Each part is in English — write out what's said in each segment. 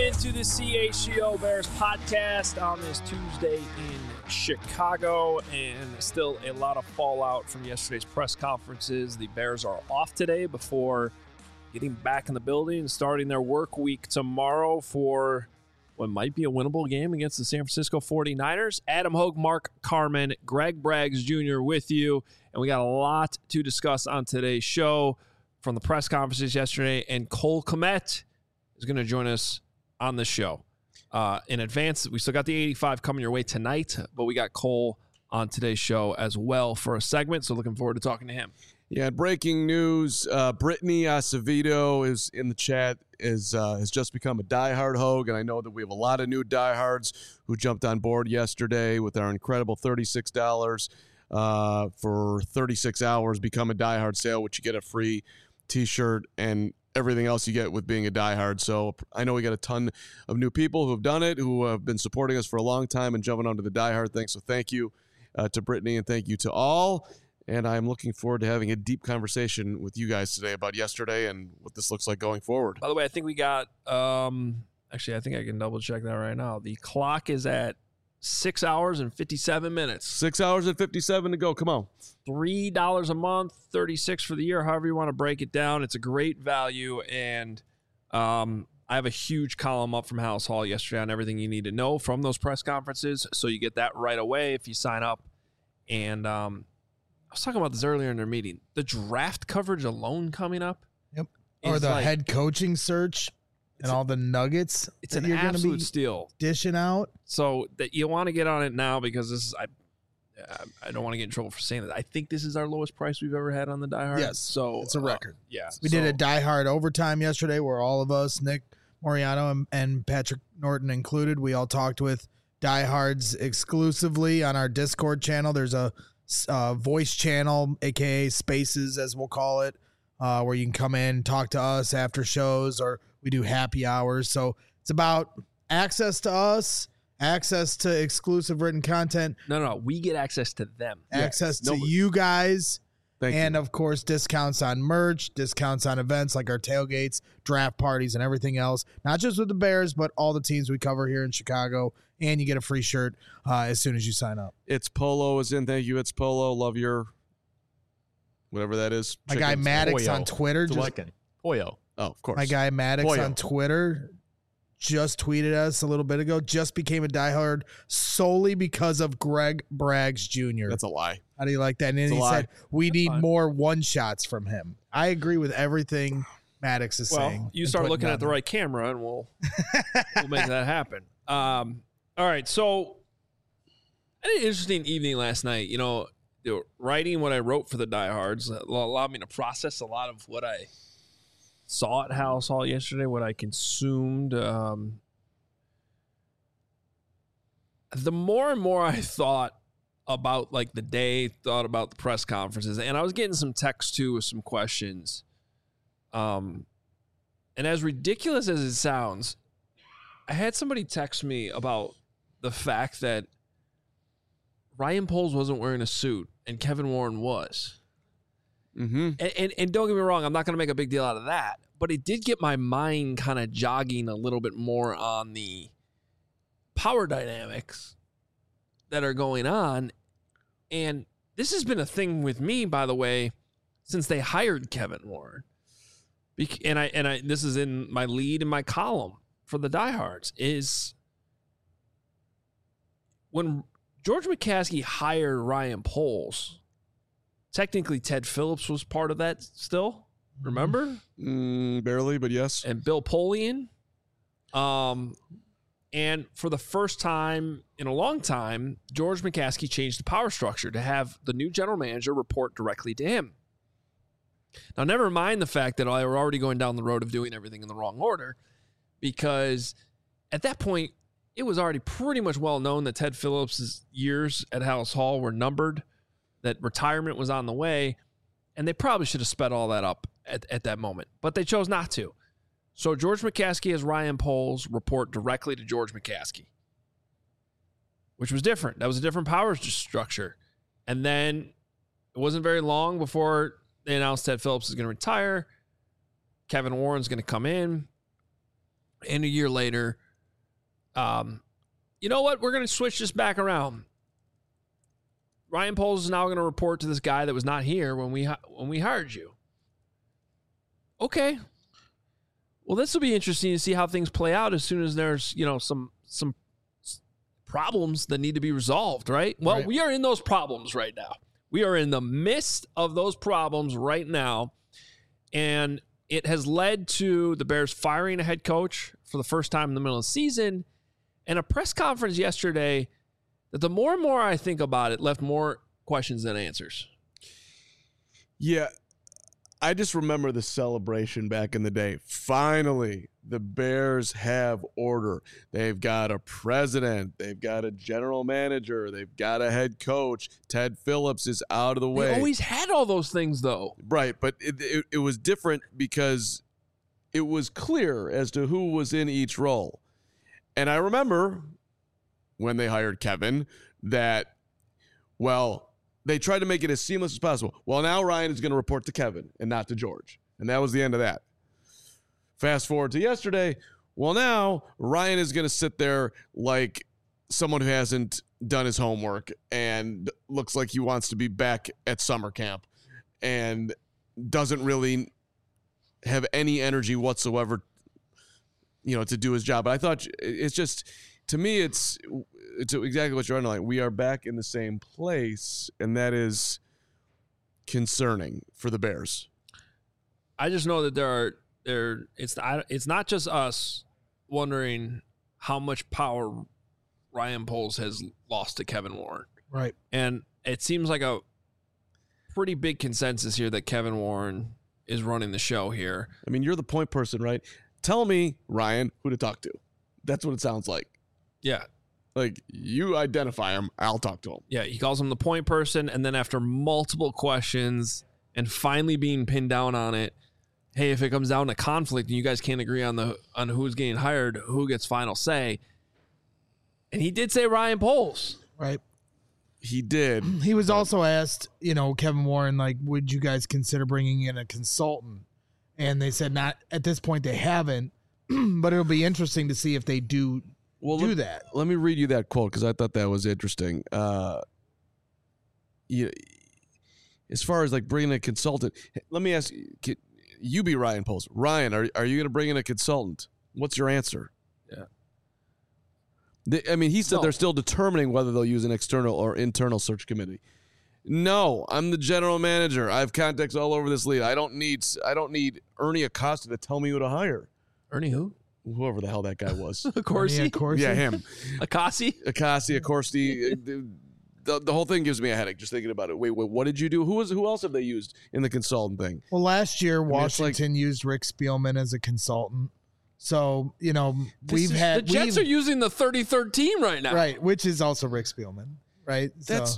into the CHGO Bears podcast on this Tuesday in Chicago, and still a lot of fallout from yesterday's press conferences. The Bears are off today before getting back in the building and starting their work week tomorrow for what might be a winnable game against the San Francisco 49ers. Adam Hogue, Mark Carman, Greg Braggs Jr. with you, and we got a lot to discuss on today's show from the press conferences yesterday, and Cole Kmet is going to join us on the show. In advance, we still got the 85 coming your way tonight, but we got Cole on today's show as well for a segment, so looking forward to talking to him. Yeah, breaking news, Brittany Acevedo is in the chat, has just become a diehard Hogue, and I know that we have a lot of new diehards who jumped on board yesterday with our incredible $36 for 36 hours, become a diehard sale, which you get a free t-shirt and everything else you get with being a diehard. So I know we got a ton of new people who have done it, who have been supporting us for a long time and jumping onto the diehard thing. So thank you to Brittany, and thank you to all. And I'm looking forward to having a deep conversation with you guys today about yesterday and what this looks like going forward. By the way, I think we got, actually, I think I can double check that right now. The clock is at 6 hours and 57 minutes. 6 hours and 57 to go. Come on. $3 a month, $36 for the year, however you want to break it down. It's a great value, and I have a huge column up from House Hall yesterday on everything you need to know from those press conferences, so you get that right away if you sign up. And I was talking about this earlier in their meeting. The draft coverage alone coming up. Yep. Or the head coaching search and all the nuggets. It's an absolute steal. Dishing out. So that you want to get on it now, because this is I don't want to get in trouble for saying that. I think this is our lowest price we've ever had on the Die Hard. Yes. So it's a record. Yeah. We did a Die Hard overtime yesterday where all of us, Nick Moriano and Patrick Norton included, we all talked with Die Hards exclusively on our Discord channel. There's a voice channel, aka Spaces as we'll call it, where you can come in, talk to us after shows, or we do happy hours. So it's about access to us, access to exclusive written content. No, we get access to them. Access to you guys. And of course, discounts on merch, discounts on events like our tailgates, draft parties, and everything else. Not just with the Bears, but all the teams we cover here in Chicago. And you get a free shirt as soon as you sign up. It's Polo is in. Thank you. It's Polo. Love your whatever that is. My guy Maddox on Twitter. Pollo. Oh, of course. My guy Maddox Pollo. on Twitter just tweeted us a little bit ago. Just became a diehard solely because of Greg Braggs Jr. That's a lie. How do you like that? And then he said, we need more one-shots from him. I agree with everything Maddox is saying. Well, you start looking at the right camera, and we'll make that happen. All right, so I had an interesting evening last night. You know, writing what I wrote for the Diehards allowed me to process a lot of what I saw at House Hall yesterday, what I consumed. The more and more I thought about like the day, thought about the press conferences, and I was getting some text too with some questions. And as ridiculous as it sounds, I had somebody text me about the fact that Ryan Poles wasn't wearing a suit and Kevin Warren was. Mm-hmm. And don't get me wrong, I'm not going to make a big deal out of that, but it did get my mind kind of jogging a little bit more on the power dynamics that are going on. And this has been a thing with me, by the way, since they hired Kevin Warren. And I this is in my lead in my column for the Diehards, is when George McCaskey hired Ryan Poles, technically Ted Phillips was part of that still, remember? Barely, but yes. And Bill Polian. And for the first time in a long time, George McCaskey changed the power structure to have the new general manager report directly to him. Now, never mind the fact that I were already going down the road of doing everything in the wrong order, because at that point, it was already pretty much well known that Ted Phillips' years at House Hall were numbered, that retirement was on the way, and they probably should have sped all that up at that moment, but they chose not to. So George McCaskey has Ryan Poles report directly to George McCaskey, which was different. That was a different power structure. And then it wasn't very long before they announced Ted Phillips is going to retire. Kevin Warren's going to come in. And a year later, you know what? We're going to switch this back around. Ryan Poles is now going to report to this guy that was not here when we hired you. Okay. Well, this will be interesting to see how things play out as soon as there's, some problems that need to be resolved, right? Well, We are in those problems right now. We are in the midst of those problems right now, and it has led to the Bears firing a head coach for the first time in the middle of the season, and a press conference yesterday that the more and more I think about it, left more questions than answers. Yeah, I just remember the celebration back in the day. Finally, the Bears have order. They've got a president. They've got a general manager. They've got a head coach. Ted Phillips is out of the way. They always had all those things, though. Right, but it was different because it was clear as to who was in each role. And I remember when they hired Kevin that, they tried to make it as seamless as possible. Well, now Ryan is going to report to Kevin and not to George. And that was the end of that. Fast forward to yesterday. Well, now Ryan is going to sit there like someone who hasn't done his homework and looks like he wants to be back at summer camp and doesn't really have any energy whatsoever, to do his job. But I thought it's just, to me, it's exactly what you're underlining. We are back in the same place, and that is concerning for the Bears. I just know that it's not just us wondering how much power Ryan Poles has lost to Kevin Warren. Right. And it seems like a pretty big consensus here that Kevin Warren is running the show here. I mean, you're the point person, right? Tell me, Ryan, who to talk to. That's what it sounds like. Yeah. Like, you identify him, I'll talk to him. Yeah, he calls him the point person, and then after multiple questions and finally being pinned down on it, hey, if it comes down to conflict and you guys can't agree on who's getting hired, who gets final say. And he did say Ryan Poles. Right. He did. He was also asked, Kevin Warren, would you guys consider bringing in a consultant? And they said not at this point. They haven't, but it'll be interesting to see if they do that. Let me read you that quote because I thought that was interesting. As far as bringing a consultant, let me ask you, be Ryan Poles. Ryan, are you going to bring in a consultant? What's your answer? Yeah. He said they're still determining whether they'll use an external or internal search committee. No, I'm the general manager. I have contacts all over this league. I don't need Ernie Acosta to tell me who to hire. Ernie who? Whoever the hell that guy was. Corsi? Yeah, him. Akasi? Corsi. The whole thing gives me a headache just thinking about it. Wait, what did you do? Who else have they used in the consultant thing? Well, last year, Washington used Rick Spielman as a consultant. So, the Jets are using the 33rd team right now. Right, which is also Rick Spielman, right?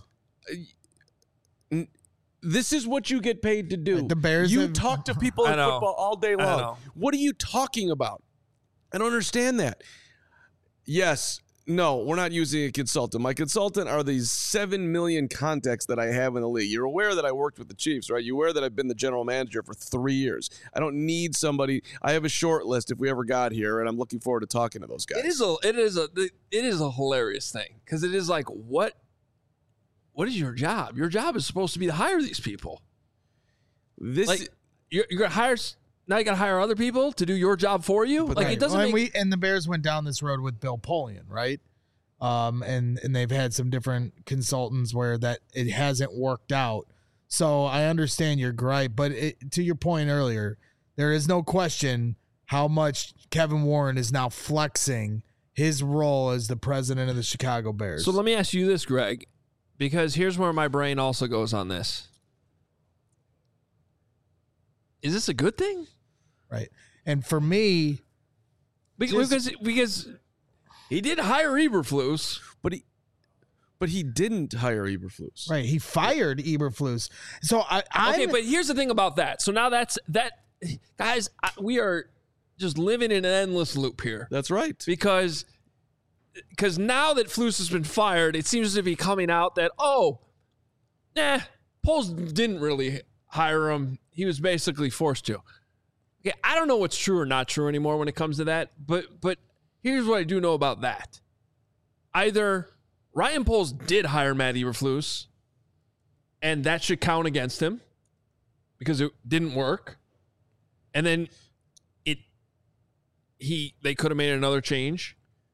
This is what you get paid to do. The Bears talk to people in football all day long. What are you talking about? I don't understand that. Yes, no, we're not using a consultant. My consultant are these 7 million contacts that I have in the league. You're aware that I worked with the Chiefs, right? You're aware that I've been the general manager for 3 years. I don't need somebody. I have a short list if we ever got here, and I'm looking forward to talking to those guys. It is a hilarious thing because it is like, what is your job? Your job is supposed to be to hire these people. You're gonna hire. Now you got to hire other people to do your job for you. It doesn't. And the Bears went down this road with Bill Polian, right? And they've had some different consultants where that it hasn't worked out. So I understand your gripe, but to your point earlier, there is no question how much Kevin Warren is now flexing his role as the president of the Chicago Bears. So let me ask you this, Greg, because here's where my brain also goes on this. Is this a good thing? Right. And for me, because he did hire Eberflus, but he didn't hire Eberflus. Right. He fired Eberflus. So okay, but here's the thing about that. So now that guys, we are just living in an endless loop here. That's right. Because now that Flus has been fired, it seems to be coming out that Poles didn't really hire him. He was basically forced to. Okay, I don't know what's true or not true anymore when it comes to that, but here's what I do know about that. Either Ryan Poles did hire Matt Eberflus, and that should count against him because it didn't work, and then they could have made another change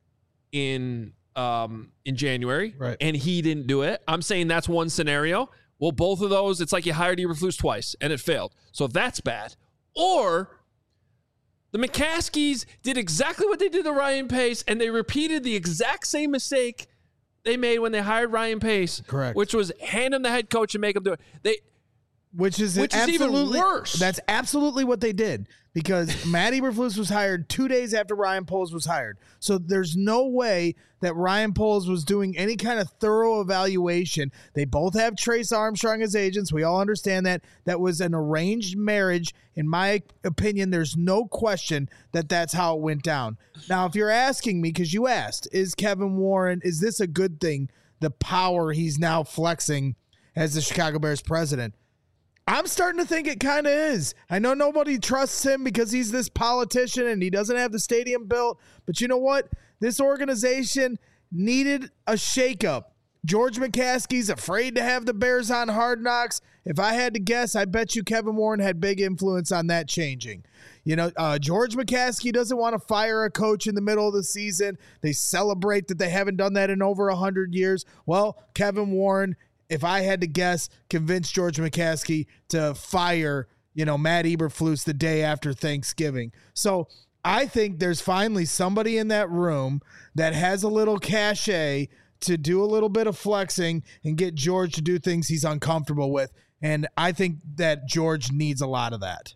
in January, right, and he didn't do it. I'm saying that's one scenario. Well, both of those, it's like you hired Eberflus twice and it failed. So that's bad. Or the McCaskies did exactly what they did to Ryan Pace, and they repeated the exact same mistake they made when they hired Ryan Pace. Correct. Which was hand him the head coach and make him do it. Which is even worse. That's absolutely what they did, because Matt Eberflus was hired 2 days after Ryan Poles was hired. So there's no way that Ryan Poles was doing any kind of thorough evaluation. They both have Trace Armstrong as agents. We all understand that. That was an arranged marriage. In my opinion, there's no question that that's how it went down. Now, if you're asking me, because you asked, is Kevin Warren, is this a good thing, the power he's now flexing as the Chicago Bears president? I'm starting to think it kind of is. I know nobody trusts him because he's this politician and he doesn't have the stadium built. But you know what? This organization needed a shakeup. George McCaskey's afraid to have the Bears on Hard Knocks. If I had to guess, I bet you Kevin Warren had big influence on that changing. You know, George McCaskey doesn't want to fire a coach in the middle of the season. They celebrate that they haven't done that in over 100 years. Well, Kevin Warren, if I had to guess, convinced George McCaskey to fire, Matt Eberflus the day after Thanksgiving. So I think there's finally somebody in that room that has a little cachet to do a little bit of flexing and get George to do things he's uncomfortable with. And I think that George needs a lot of that.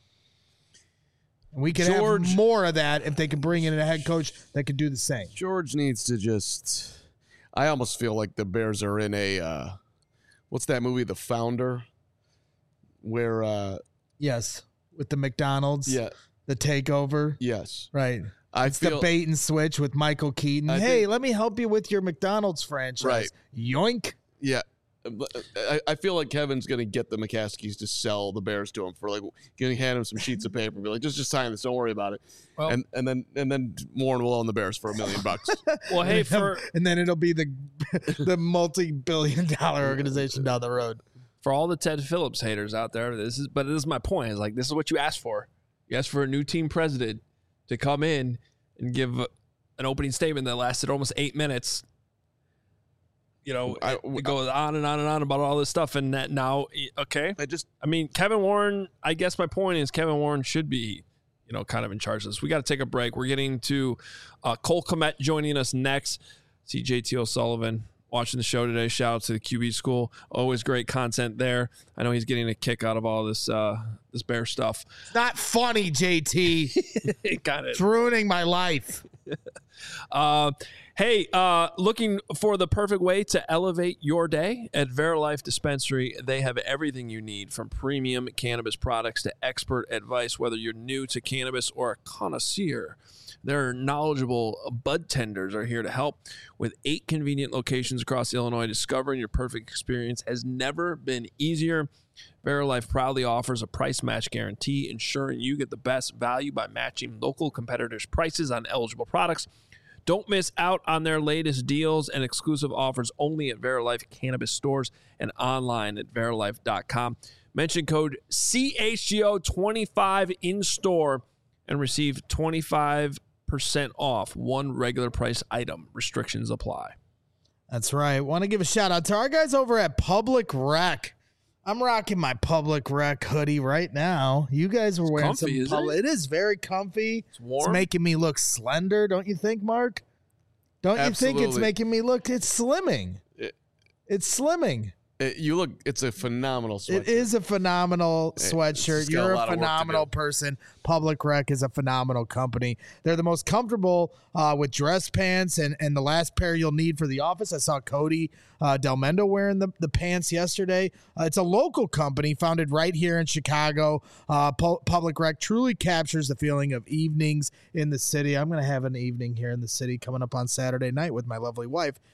And we could have more of that if they could bring in a head coach that could do the same. George needs to just... I almost feel like the Bears are in a... what's that movie, The Founder? Where... yes, with the McDonald's. Yeah. The takeover. Yes. Right. It's the bait and switch with Michael Keaton. Let me help you with your McDonald's franchise. Right. Yoink. Yeah. I feel like Kevin's going to get the McCaskies to sell the Bears to him for going to hand him some sheets of paper and be like, just sign this. Don't worry about it. Well, and then Warren will own the Bears for $1 million. Well, hey, and then it'll be the multi-billion-dollar organization down the road. For all the Ted Phillips haters out there, this is my point. It's like, this is what you asked for. You asked for a new team president to come in and give an opening statement that lasted almost 8 minutes. It goes on and on and on about all this stuff, and that now, okay. Kevin Warren, I guess my point is Kevin Warren should be, kind of in charge of this. We got to take a break. We're getting to Cole Kmet joining us next. See JT O'Sullivan watching the show today. Shout out to the QB school. Always great content there. I know he's getting a kick out of all this this Bear stuff. It's not funny, JT. Got it. It's ruining my life. Hey, looking for the perfect way to elevate your day? At Verilife Dispensary, they have everything you need, from premium cannabis products to expert advice, whether you're new to cannabis or a connoisseur. Their knowledgeable bud tenders are here to help. With 8 convenient locations across Illinois, discovering your perfect experience has never been easier. Verilife proudly offers a price match guarantee, ensuring you get the best value by matching local competitors' prices on eligible products. Don't miss out on their latest deals and exclusive offers only at Verilife Cannabis stores and online at verilife.com. Mention code CHGO25 in store and receive 25% off one regular price item. Restrictions apply. That's right. Want to give a shout out to our guys over at Public Rec. I'm rocking my Public Rec hoodie right now. You guys were wearing some Public. It is very comfy. It's warm. It's making me look slender, don't you think, Mark? Don't you think it's making me look? It's slimming. It's slimming. It's a phenomenal sweatshirt. It is a phenomenal sweatshirt. You're a phenomenal person. Public Rec is a phenomenal company. They're the most comfortable with dress pants and the last pair you'll need for the office. I saw Cody Delmendo wearing the pants yesterday. It's a local company founded right here in Chicago. Public Rec truly captures the feeling of evenings in the city. I'm going to have an evening here in the city coming up on Saturday night with my lovely wife.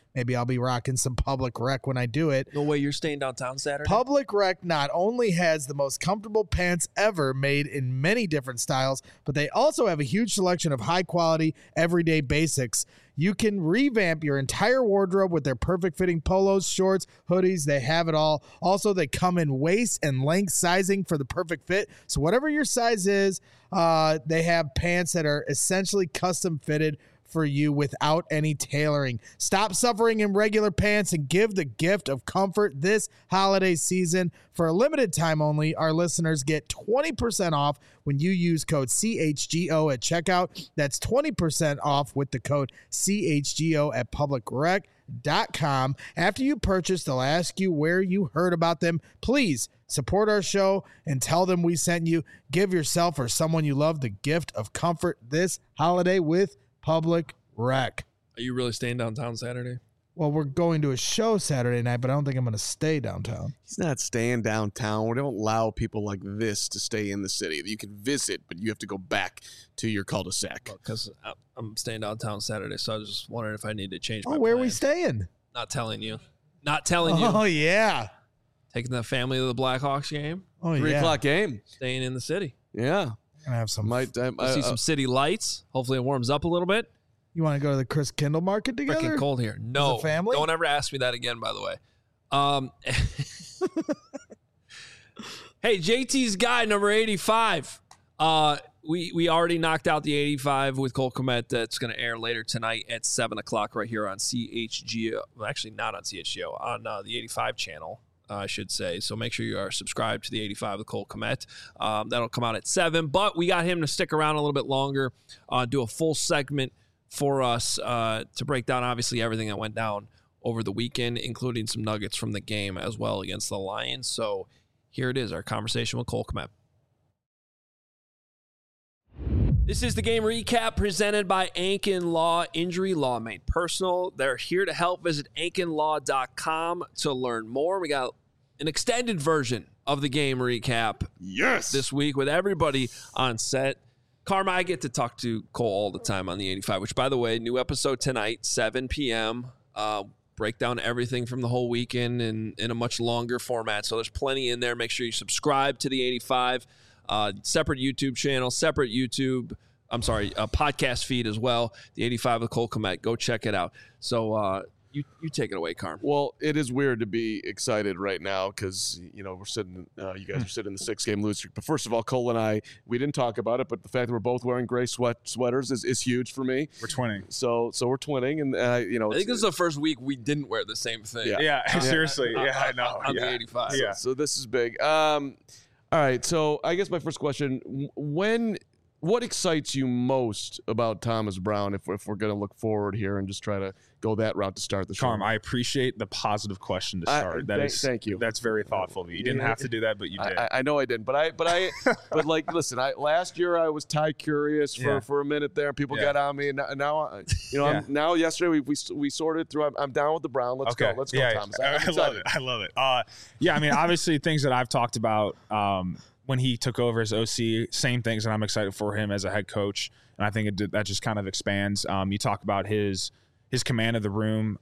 Maybe I'll be rocking some Public Rec when I do it. No way you're staying downtown Saturday? Public Rec not only has the most comfortable pants ever made in many different styles, but they also have a huge selection of high-quality, everyday basics. You can revamp your entire wardrobe with their perfect fitting polos, shorts, hoodies. They have it all. Also, they come in waist and length sizing for the perfect fit. So whatever your size is, they have pants that are essentially custom fitted for you without any tailoring. Stop suffering in regular pants and give the gift of comfort this holiday season. For a limited time only, our listeners get 20% off when you use code CHGO at checkout. That's 20% off with the code CHGO at publicrec.com. After you purchase, they'll ask you where you heard about them. Please support our show and tell them we sent you. Give yourself or someone you love the gift of comfort this holiday with Public Rec. Are you really staying downtown Saturday? Well, we're going to a show Saturday night, but I don't think I'm going to stay downtown. He's not staying downtown. We don't allow people like this to stay in the city. You can visit, but you have to go back to your cul-de-sac. Because I'm staying downtown Saturday, so I was just wondering if I need to change my where are plan. we staying? Not telling you. Not telling you. Oh, yeah. Taking the family to the Blackhawks game. Oh, 3 yeah. o'clock game. Staying in the city. Yeah. Going to have some. We'll see some city lights. Hopefully it warms up a little bit. You want to go to the Chris Kindle Market together? Freaking cold here. No. As a family? Don't ever ask me that again, by the way. Hey, JT's guy, number 85. We already knocked out the 85 with Cole Kmet. That's going to air later tonight at 7 o'clock right here on CHGO. Well, actually, not on CHGO, on the 85 channel, I should say. So make sure you are subscribed to the 85 with Cole Kmet. That'll come out at 7. But we got him to stick around a little bit longer, do a full segment for us to break down, obviously, everything that went down over the weekend, including some nuggets from the game as well against the Lions. So here it is, our conversation with Cole Kmet. This is the game recap presented by Ankin Law. Injury law made personal. They're here to help. Visit ankinlaw.com to learn more. We got an extended version of the game recap this week with everybody on set. Karma, I get to talk to Cole all the time on the 85, which, by the way, new episode tonight, 7 p.m. Break down everything from the whole weekend in a much longer format. So there's plenty in there. Make sure you subscribe to the 85. Separate YouTube channel, podcast feed as well. The 85 with Cole Kmet. Go check it out. So you take it away, Carm. Well, it is weird to be excited right now because, we're sitting, you guys are sitting in the 6-game losing streak. But first of all, Cole and I, we didn't talk about it, but the fact that we're both wearing gray sweaters is huge for me. We're twinning. So we're twinning. And, I think this is the first week we didn't wear the same thing. Yeah. Seriously. I know. On the 85. Yeah. So this is big. All right. So I guess my first question, what excites you most about Thomas Brown if we're going to look forward here and just try to go that route to start the show? Carm, I appreciate the positive question to start. Thank you. That's very thoughtful of you. You didn't have to do that, but you did. I know I didn't, but listen, last year I was Ty curious for a minute there. People got on me, and now yesterday we sorted through. I'm down with the Brown. Let's go. Let's go, Thomas. I love it. Obviously things that I've talked about. When he took over as OC, same things, and I'm excited for him as a head coach. And I think that just kind of expands. You talk about his command of the room,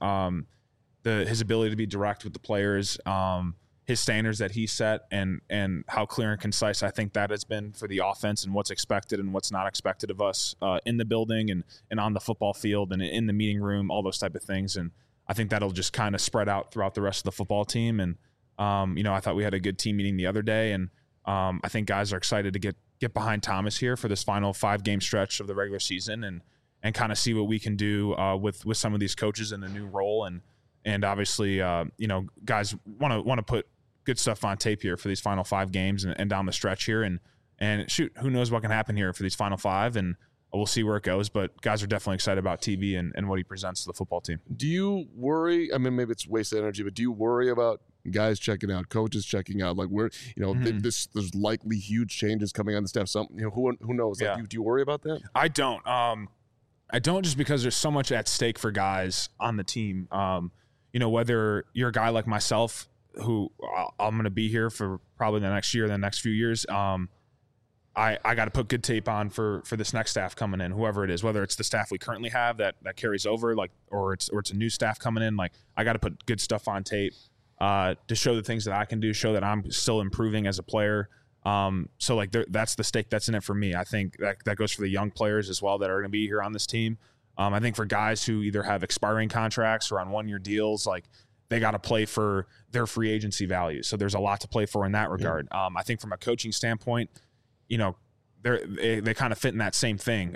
his ability to be direct with the players, his standards that he set, and how clear and concise I think that has been for the offense and what's expected and what's not expected of us in the building and on the football field and in the meeting room, all those type of things. And I think that'll just kind of spread out throughout the rest of the football team. And I thought we had a good team meeting the other day, and I think guys are excited to get behind Thomas here for this final 5-game stretch of the regular season and kind of see what we can do with some of these coaches in the new role. And obviously, guys want to put good stuff on tape here for these final 5 games and down the stretch here. And shoot, who knows what can happen here for these final 5, and we'll see where it goes. But guys are definitely excited about TV and what he presents to the football team. Do you worry? I mean, maybe it's wasted energy, but do you worry about guys checking out, coaches checking out? Like, we're, there's likely huge changes coming on the staff. Who knows? Yeah. Do you worry about that? I don't. I don't, just because there's so much at stake for guys on the team. Whether you're a guy like myself, who I'm going to be here for probably the next year, the next few years. I got to put good tape on for this next staff coming in, whoever it is, whether it's the staff we currently have that carries over, like, or it's a new staff coming in. Like, I got to put good stuff on tape to show the things that I can do, show that I'm still improving as a player. So like that's the stake that's in it for me. I think that goes for the young players as well that are going to be here on this team. I think for guys who either have expiring contracts or on 1-year deals, like, they got to play for their free agency value. So there's a lot to play for in that regard. I think from a coaching standpoint, you know, they kind of fit in that same thing.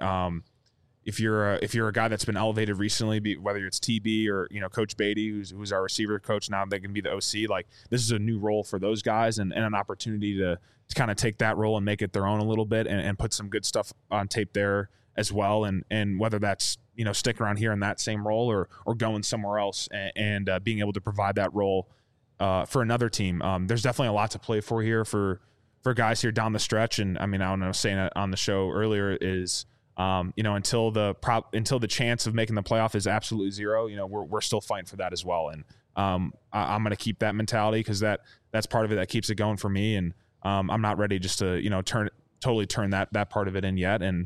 If you're a guy that's been elevated recently, whether it's TB or, you know, Coach Beatty, who's our receiver coach now, they can be the OC. Like, this is a new role for those guys and an opportunity to kind of take that role and make it their own a little bit and put some good stuff on tape there as well. And whether that's, you know, sticking around here in that same role or going somewhere else and being able to provide that role for another team. There's definitely a lot to play for here for guys here down the stretch. And I mean, I don't know, saying it on the show earlier is, you know, until the chance of making the playoff is absolutely zero, you know, we're still fighting for that as well. And I'm going to keep that mentality because that's part of it that keeps it going for me. And I'm not ready just to, you know, totally turn that part of it in yet. And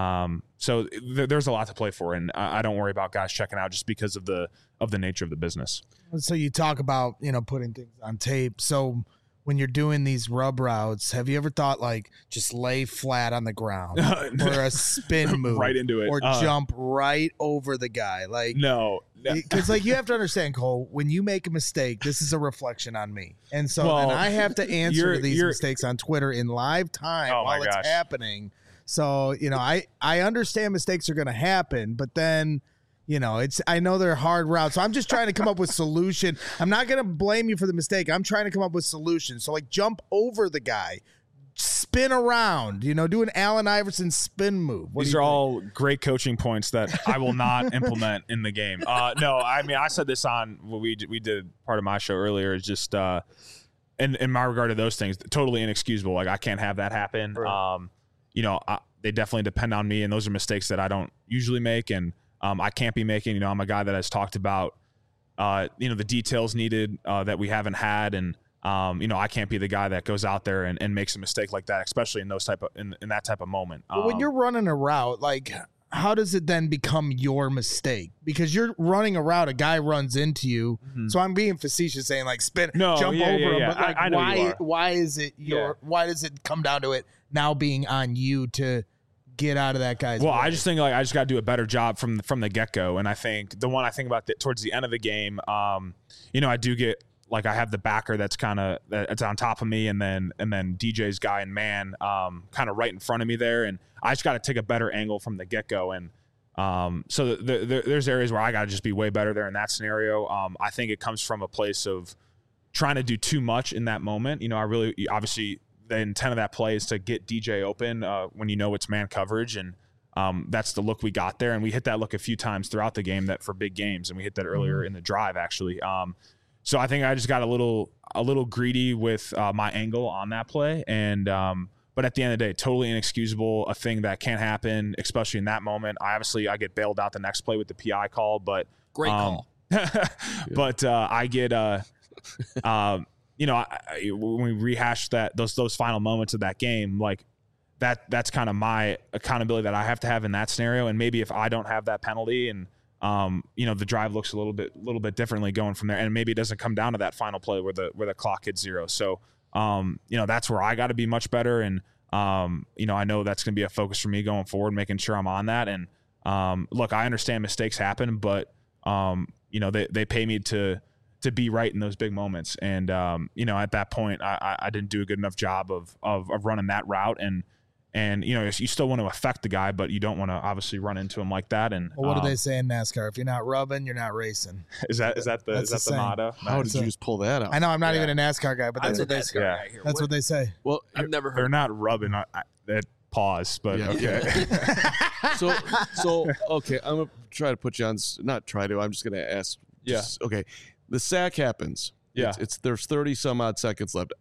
so there's a lot to play for, and I don't worry about guys checking out just because of the nature of the business. So you talk about, you know, putting things on tape. So when you're doing these rub routes, have you ever thought, like, just lay flat on the ground or a spin move right into it or jump right over the guy? Like, no. Because, like, you have to understand, Cole, when you make a mistake, this is a reflection on me. And so then I have to answer to these mistakes on Twitter in live time while it's happening. So, you know, I understand mistakes are going to happen, but then, you know, I know they're hard routes. So I'm just trying to come up with solution. I'm not going to blame you for the mistake. I'm trying to come up with solutions. So, like, jump over the guy, spin around, you know, do an Allen Iverson spin move. These are all great coaching points that I will not implement in the game. No, I mean, I said this on what we did part of my show earlier. Is just in my regard to those things, totally inexcusable. Like, I can't have that happen. Right. You know, they definitely depend on me, and those are mistakes that I don't usually make, and I can't be making. You know, I'm a guy that has talked about, you know, the details needed that we haven't had, and you know, I can't be the guy that goes out there and makes a mistake like that, especially in those in that type of moment. But when you're running a route, like, how does it then become your mistake? Because you're running a route, a guy runs into you. Mm-hmm. So I'm being facetious saying, like, jump over him. But, like, why is it why does it come down to it now being on you to get out of that guy's way? I just think, like, I just got to do a better job from the get-go. And I think the one I think about towards the end of the game, you know, I do get, like, I have the backer that's on top of me, and then DJ's guy and man kind of right in front of me there, and I just got to take a better angle from the get-go. And so there's areas where I got to just be way better there in that scenario. I think it comes from a place of trying to do too much in that moment. You know, obviously the intent of that play is to get DJ open when you know it's man coverage, and that's the look we got there, and we hit that look a few times throughout the game for big games, and we hit that earlier in the drive actually. So I think I just got a little greedy with my angle on that play, and but at the end of the day, totally inexcusable, a thing that can't happen, especially in that moment. I get bailed out the next play with the PI call, but great call. But I get you know, when we rehash those final moments of that game, like that's kind of my accountability that I have to have in that scenario, and maybe if I don't have that penalty and you know, the drive looks a little bit differently going from there, and maybe it doesn't come down to that final play where the clock hits zero. So, you know, that's where I got to be much better, and you know, I know that's going to be a focus for me going forward, making sure I'm on that. And look, I understand mistakes happen, but you know, they pay me to be right in those big moments, and you know, at that point, I didn't do a good enough job of running that route, and you know, you still want to affect the guy, but you don't want to obviously run into him like that. And well, what do they say in NASCAR? If you're not rubbing, you're not racing. Is that the motto? How did you just pull that out? I know I'm not even a NASCAR guy, but that's what they say. That's what they say. Well, I've never heard. They're not rubbing. That pause, but okay. so okay, I'm gonna try to put you on. Not try to. I'm just gonna ask. Okay. The sack happens. Yeah. There's 30 some odd seconds left.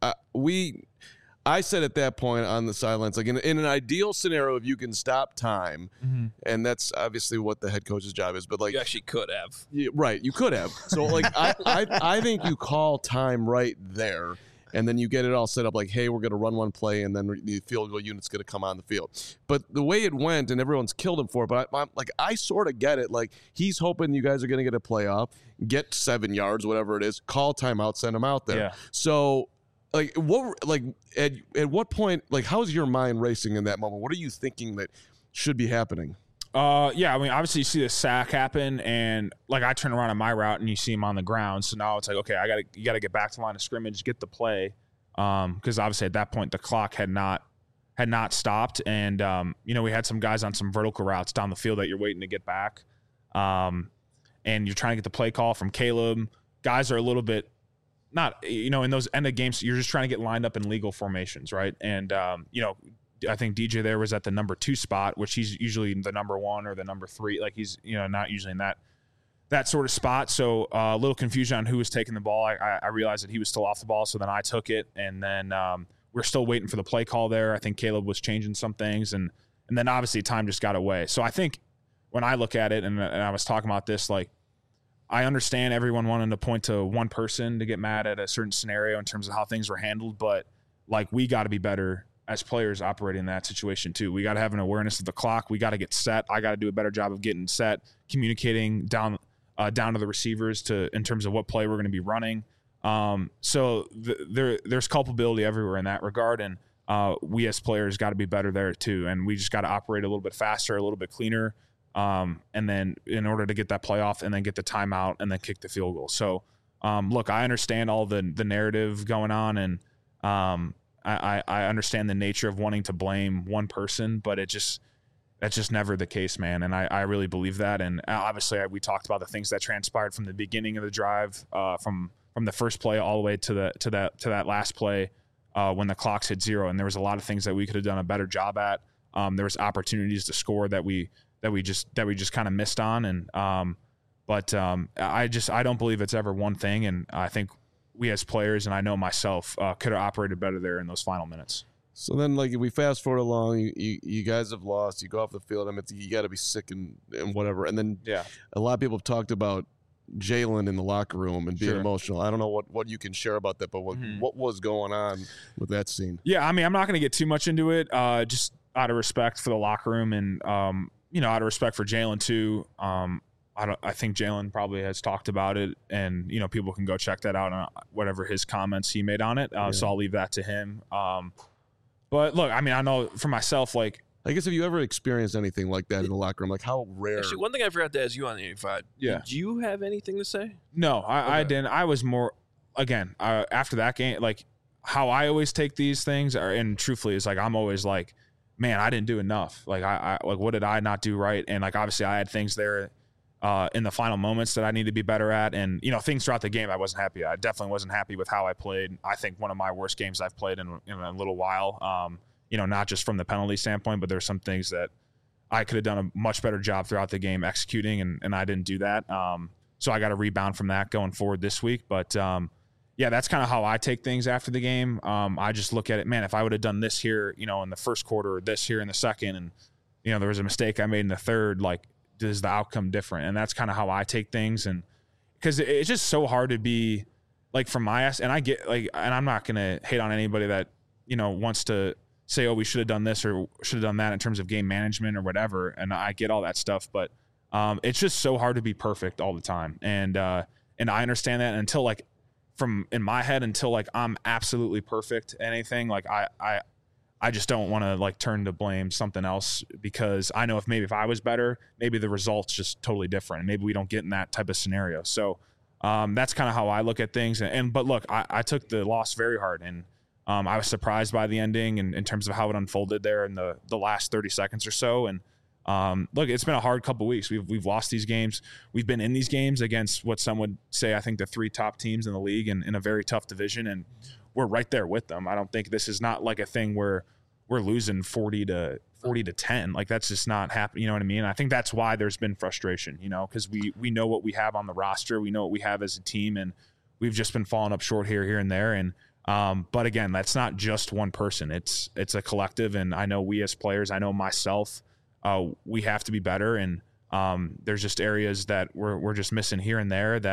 I said at that point on the sidelines, like in an ideal scenario, if you can stop time, and that's obviously what the head coach's job is, but like you actually could have. Right, you could have. So like I think you call time right there, and then you get it all set up like, hey, we're going to run one play, and then the field goal unit's going to come on the field. But the way it went, and everyone's killed him for it, but I sort of get it. Like, he's hoping you guys are going to get a playoff, get 7 yards, whatever it is, call timeout, send him out there. Yeah. So, like, at what point, like, how's your mind racing in that moment? What are you thinking that should be happening? Yeah, I mean, obviously you see the sack happen, and like I turn around on my route and you see him on the ground. So now it's like, okay, you got to get back to the line of scrimmage, get the play, because obviously at that point the clock had not stopped, and we had some guys on some vertical routes down the field that you're waiting to get back, and you're trying to get the play call from Caleb. Guys are a little bit not, in those end of games, you're just trying to get lined up in legal formations, right? And I think DJ there was at the number 2 spot, which he's usually the number 1 or the number 3. Like he's, not usually in that sort of spot. So a little confusion on who was taking the ball. I realized that he was still off the ball. So then I took it, and then we're still waiting for the play call there. I think Caleb was changing some things, and then obviously time just got away. So I think when I look at it, and I was talking about this, like, I understand everyone wanting to point to one person to get mad at a certain scenario in terms of how things were handled, but like, we got to be better as players operating in that situation too. We got to have an awareness of the clock. We got to get set. I got to do a better job of getting set, communicating down to the receivers in terms of what play we're going to be running. So there's culpability everywhere in that regard, and we as players got to be better there too. And we just got to operate a little bit faster, a little bit cleaner, and then in order to get that playoff and then get the timeout and then kick the field goal. So look, I understand all the narrative going on, and I understand the nature of wanting to blame one person, but that's just never the case, man. And I really believe that. And obviously we talked about the things that transpired from the beginning of the drive, from the first play all the way to that last play, when the clocks hit 0. And there was a lot of things that we could have done a better job at. There was opportunities to score that we just kind of missed on. And, I don't believe it's ever one thing. And I think we as players, and I know myself, could have operated better there in those final minutes. So then, like, if we fast forward along, you guys have lost. You go off the field. I mean, you got to be sick and whatever. And then a lot of people have talked about Jalen in the locker room and being emotional. I don't know what you can share about that, but what was going on with that scene? Yeah, I mean, I'm not going to get too much into it, just out of respect for the locker room and, out of respect for Jalen too. I think Jalen probably has talked about it, and people can go check that out on whatever his comments he made on it. So I'll leave that to him. But look, I mean, I know for myself, like, I guess, have you ever experienced anything like that in the locker room? Like, how rare? Actually, one thing I forgot to ask you on the 85. Yeah. Did you have anything to say? No, I didn't. I was more, again, after that game, like, how I always take these things, and truthfully, is like, I'm always like, man, I didn't do enough. Like, I like, what did I not do right? And like, obviously, I had things there in the final moments that I need to be better at. And, things throughout the game I wasn't happy at. I definitely wasn't happy with how I played. I think one of my worst games I've played in a little while, not just from the penalty standpoint, but there's some things that I could have done a much better job throughout the game executing, and I didn't do that. So I got to rebound from that going forward this week. But, that's kind of how I take things after the game. I just look at it, man, if I would have done this here, in the first quarter, or this here in the second, and, there was a mistake I made in the third, like, is the outcome different? And that's kind of how I take things. And because it's just so hard to be like, from my ass, and I get like, and I'm not going to hate on anybody that, wants to say, oh, we should have done this or should have done that in terms of game management or whatever. And I get all that stuff, but it's just so hard to be perfect all the time. And I understand that until like, in my head, until like I'm absolutely perfect at anything, like I just don't want to like turn to blame something else, because I know if I was better, maybe the result's just totally different. Maybe we don't get in that type of scenario. So that's kind of how I look at things. But look, I took the loss very hard, and I was surprised by the ending and in terms of how it unfolded there in the last 30 seconds or so. And look, it's been a hard couple weeks. We've lost these games. We've been in these games against what some would say, I think, the 3 top teams in the league, and in a very tough division. And we're right there with them. I don't think this is not like a thing where we're losing 40 to 10. Like, that's just not happening. You know what I mean? I think that's why there's been frustration, because we know what we have on the roster. We know what we have as a team, and we've just been falling up short here and there. And, but again, that's not just one person. It's a collective. And I know we as players, I know myself, we have to be better. And, there's just areas that we're just missing here and there that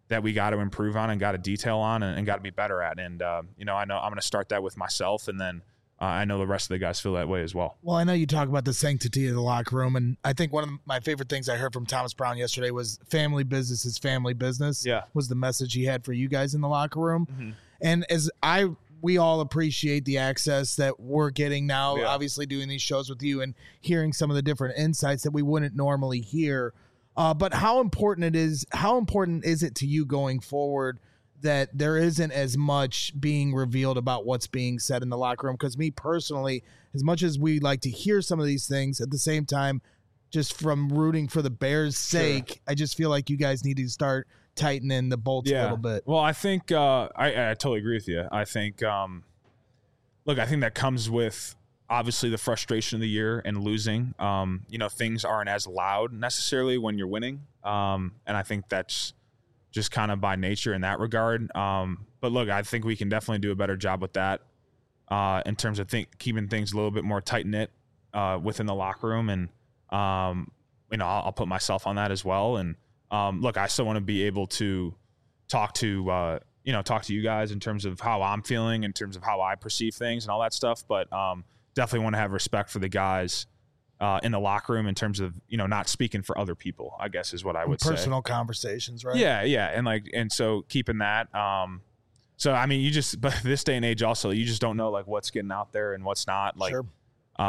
that we got to improve on and got to detail on and got to be better at. And, I know I'm going to start that with myself, and then I know the rest of the guys feel that way as well. Well, I know you talk about the sanctity of the locker room, and I think one of my favorite things I heard from Thomas Brown yesterday was family business is family business. Yeah. Was the message he had for you guys in the locker room. Mm-hmm. And we all appreciate the access that we're getting now, obviously doing these shows with you and hearing some of the different insights that we wouldn't normally hear. But how important is it to you going forward that there isn't as much being revealed about what's being said in the locker room? Because me personally, as much as we like to hear some of these things, at the same time, just from rooting for the Bears' sake, I just feel like you guys need to start tightening the bolts a little bit. Well, I think I totally agree with you. I think, look, I think that comes with obviously the frustration of the year and losing. Things aren't as loud necessarily when you're winning. And I think that's just kind of by nature in that regard. But look, I think we can definitely do a better job with that in terms of keeping things a little bit more tight knit within the locker room. And, I'll put myself on that as well. And look, I still want to be able to talk to you guys in terms of how I'm feeling, in terms of how I perceive things and all that stuff. But definitely want to have respect for the guys in the locker room in terms of, not speaking for other people, I guess is what I would say. Personal conversations, right? Yeah. And so keeping that, but this day and age also, you just don't know like what's getting out there and what's not. Like, sure.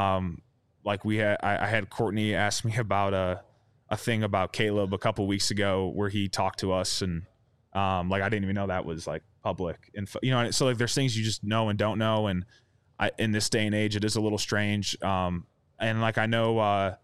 I had Courtney ask me about a thing about Caleb a couple weeks ago where he talked to us, and I didn't even know that was like public info, so like there's things you just know and don't know. And in this day and age, it is a little strange. And like, I know,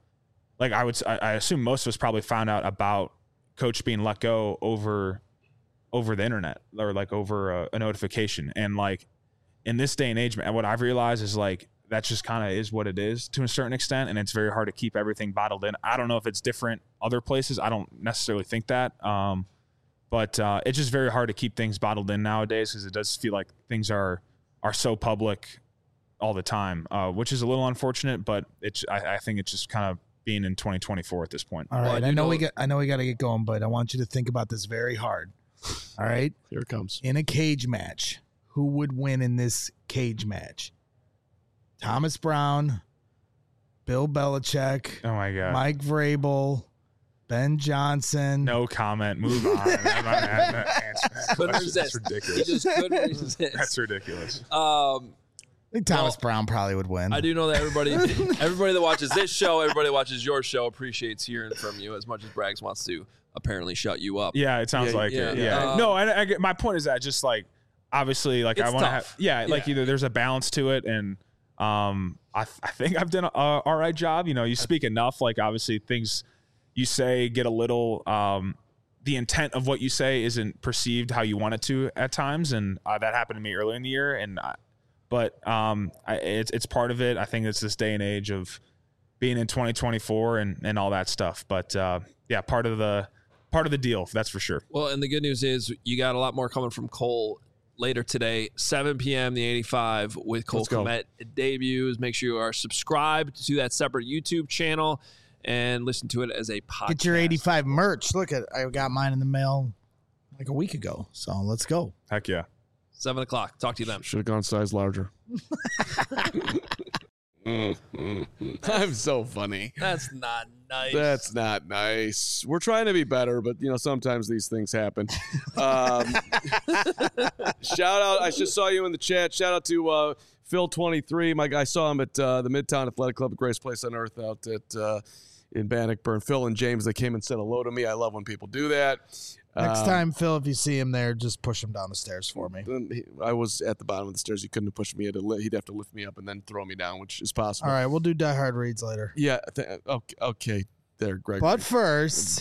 I assume most of us probably found out about Coach being let go over the internet or like over a notification. And like in this day and age, what I've realized is like, that just kind of is what it is to a certain extent. And it's very hard to keep everything bottled in. I don't know if it's different other places. I don't necessarily think that. But it's just very hard to keep things bottled in nowadays, because it does feel like things are so public all the time, which is a little unfortunate, but I think it's just kind of being in 2024 at this point. All right. I know we got to get going, but I want you to think about this very hard. All right. Here it comes. In a cage match, who would win in this cage match? Thomas Brown, Bill Belichick, oh my God, Mike Vrabel, Ben Johnson. No comment. Move on. I'm not That's ridiculous. He just couldn't resist. That's ridiculous. I think Thomas Brown probably would win. I do know that everybody that watches this show, everybody that watches your show appreciates hearing from you as much as Braggs wants to apparently shut you up. Yeah, it sounds like it. Yeah. No, and my point is that just like, obviously, like I want to have, either there's a balance to it, and I think I've done a all right job. You speak enough, like obviously things you say get a little, the intent of what you say isn't perceived how you want it to at times. And that happened to me earlier in the year. But it's part of it. I think it's this day and age of being in 2024 and all that stuff. But part of the deal, that's for sure. Well, and the good news is you got a lot more coming from Cole later today, 7 p.m. the 85 with Cole Kmet debuts. Make sure you are subscribed to that separate YouTube channel and listen to it as a podcast. Get your 85 merch. Look at, I got mine in the mail like a week ago. So let's go. Heck yeah. 7 o'clock. Talk to you then. Should have gone size larger. I'm so funny. That's not nice. That's not nice. We're trying to be better, but sometimes these things happen. Shout out. I just saw you in the chat. Shout out to Phil23. My guy, saw him at the Midtown Athletic Club at Grace Place on Earth out at in Bannockburn. Phil and James, they came and said hello to me. I love when people do that. Next time, Phil, if you see him there, just push him down the stairs for me. I was at the bottom of the stairs. He couldn't have pushed me. He'd have to lift me up and then throw me down, which is possible. All right, we'll do Die Hard reads later. Yeah. Okay. There, Greg. But first.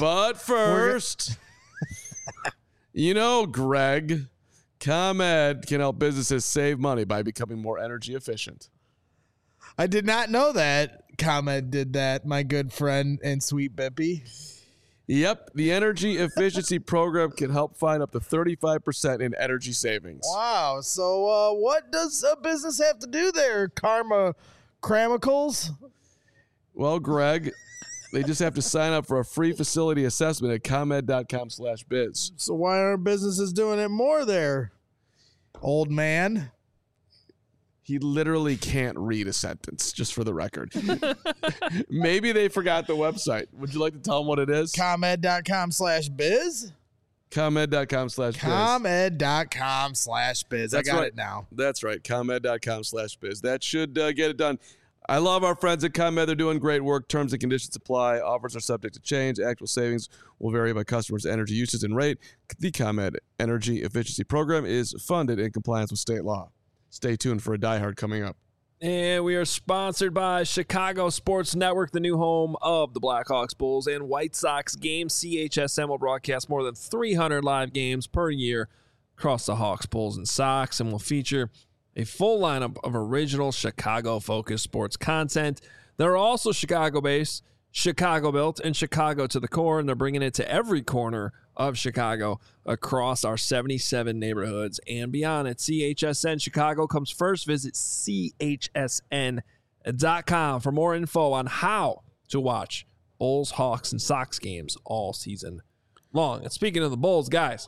Greg, ComEd can help businesses save money by becoming more energy efficient. I did not know that ComEd did that, my good friend and sweet Bippy. Yep, the energy efficiency program can help find up to 35% in energy savings. Wow. So what does a business have to do there, Karma Cramicals? Well, Greg, They just have to sign up for a free facility assessment at ComEd.com/biz. So why aren't businesses doing it more there, old man? He literally can't read a sentence, just for the record. Maybe they forgot the website. Would you like to tell them what it is? ComEd.com/biz? ComEd.com/biz. ComEd.com/biz. I got it now. That's right. ComEd.com/biz. That should get it done. I love our friends at ComEd. They're doing great work. Terms and conditions apply. Offers are subject to change. Actual savings will vary by customers' energy usage and rate. The ComEd Energy Efficiency Program is funded in compliance with state law. Stay tuned for a Die Hard coming up. And we are sponsored by Chicago Sports Network, the new home of the Blackhawks, Bulls, and White Sox games. CHSN will broadcast more than 300 live games per year across the Hawks, Bulls, and Sox, and will feature a full lineup of original Chicago-focused sports content. They're also Chicago-based, Chicago-built, and Chicago to the core, and they're bringing it to every corner of Chicago across our 77 neighborhoods and beyond. At CHSN, Chicago comes first. Visit CHSN.com for more info on how to watch Bulls, Hawks, and Sox games all season long. And speaking of the Bulls, guys,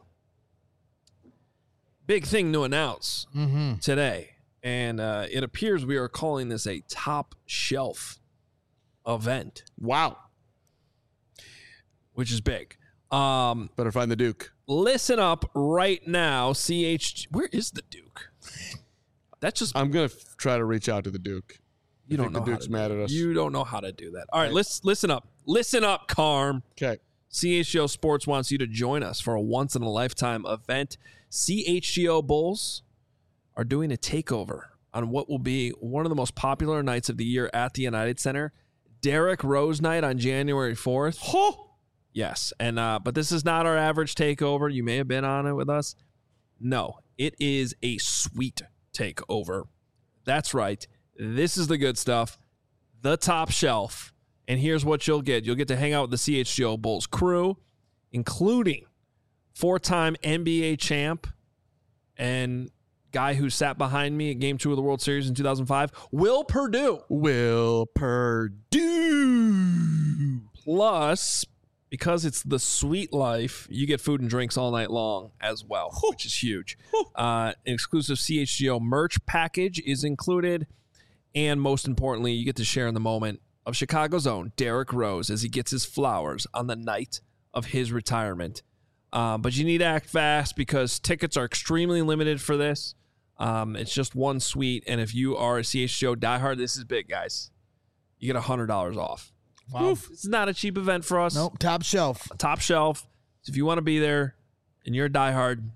big thing to announce today, and it appears we are calling this a top shelf event. Wow. Which is big. Better find the Duke. Listen up right now. Where is the Duke? That's just. I'm going to try to reach out to the Duke. You don't know the Duke's mad at us. You don't know how to do that. All right, listen up. Listen up, Carm. Okay. CHGO Sports wants you to join us for a once-in-a-lifetime event. CHGO Bulls are doing a takeover on what will be one of the most popular nights of the year at the United Center. Derrick Rose Night on January 4th. Yes, and but this is not our average takeover. You may have been on it with us. No, it is a sweet takeover. That's right. This is the good stuff, the top shelf. And here's what you'll get. You'll get to hang out with the CHGO Bulls crew, including four-time NBA champ and guy who sat behind me at Game 2 of the World Series in 2005, Will Perdue. Will Perdue. Plus, because it's the sweet life, you get food and drinks all night long as well, which is huge. An exclusive CHGO merch package is included. And most importantly, you get to share in the moment of Chicago's own Derrick Rose as he gets his flowers on the night of his retirement. But you need to act fast because tickets are extremely limited for this. It's just one suite. And if you are a CHGO diehard, this is big, guys. You get $100 off. Wow. It's not a cheap event for us. Nope, top shelf. Top shelf. So if you want to be there and you're a diehard,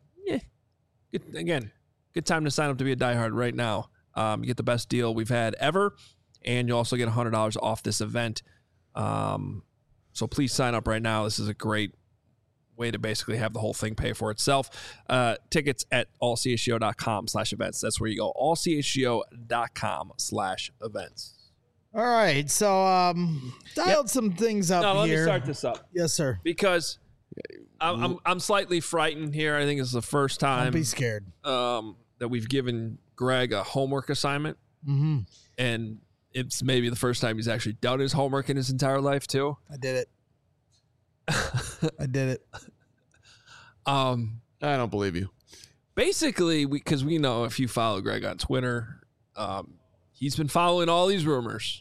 good time to sign up to be a diehard right now. You get the best deal we've had ever, and you also get $100 off this event. So please sign up right now. This is a great way to basically have the whole thing pay for itself. Tickets at allchgo.com/events. That's where you go. allchgo.com/events. All right, so dialed some things up No, here. let me start this up. Yes, sir. Because I'm slightly frightened here. I think it's the first time Don't be scared. that we've given Greg a homework assignment. Mm-hmm. And it's maybe the first time he's actually done his homework in his entire life, too. I did it. I did it. I don't believe you. Basically, because we know if you follow Greg on Twitter, he's been following all these rumors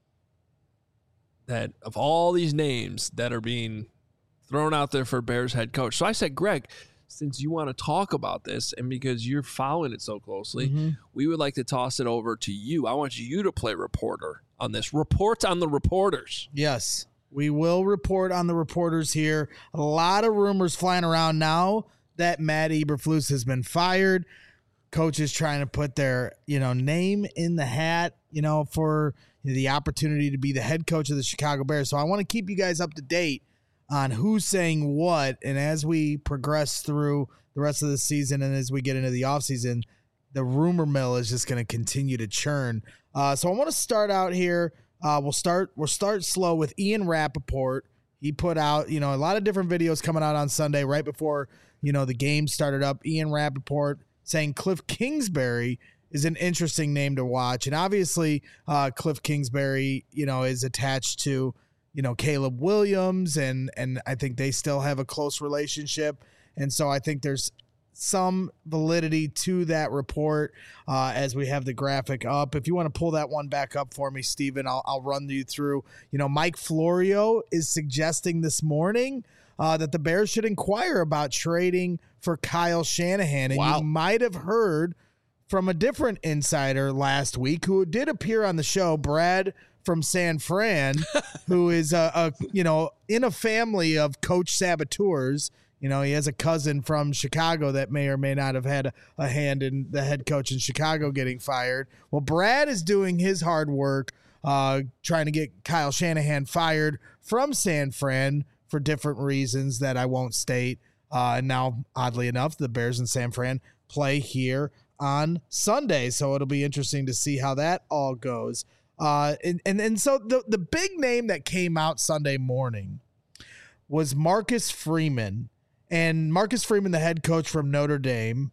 that of all these names that are being thrown out there for Bears head coach. So I said, Greg, since you want to talk about this and because you're following it so closely, we would like to toss it over to you. I want you to play reporter on this. Report on the reporters. Yes, we will report on the reporters here. A lot of rumors flying around now that Matt Eberflus has been fired. Coaches trying to put their, name in the hat, for the opportunity to be the head coach of the Chicago Bears. So I want to keep you guys up to date on who's saying what. And as we progress through the rest of the season and as we get into the offseason, the rumor mill is just going to continue to churn. So I want to start out here. We'll start slow with Ian Rappaport. He put out, a lot of different videos coming out on Sunday right before, the game started up. Ian Rappaport saying Cliff Kingsbury is an interesting name to watch. And obviously Cliff Kingsbury, is attached to Caleb Williams, and I think they still have a close relationship. And so I think there's some validity to that report as we have the graphic up. If you want to pull that one back up for me, Steven, I'll run you through. Mike Florio is suggesting this morning that the Bears should inquire about trading for Kyle Shanahan. And you might have heard from a different insider last week who did appear on the show, Brad from San Fran, who is in a family of coach saboteurs. He has a cousin from Chicago that may or may not have had a hand in the head coach in Chicago getting fired. Well, Brad is doing his hard work trying to get Kyle Shanahan fired from San Fran for different reasons that I won't state. And now, oddly enough, the Bears and San Fran play here on Sunday, so it'll be interesting to see how that all goes. And so the big name that came out Sunday morning was Marcus Freeman. And Marcus Freeman, the head coach from Notre Dame,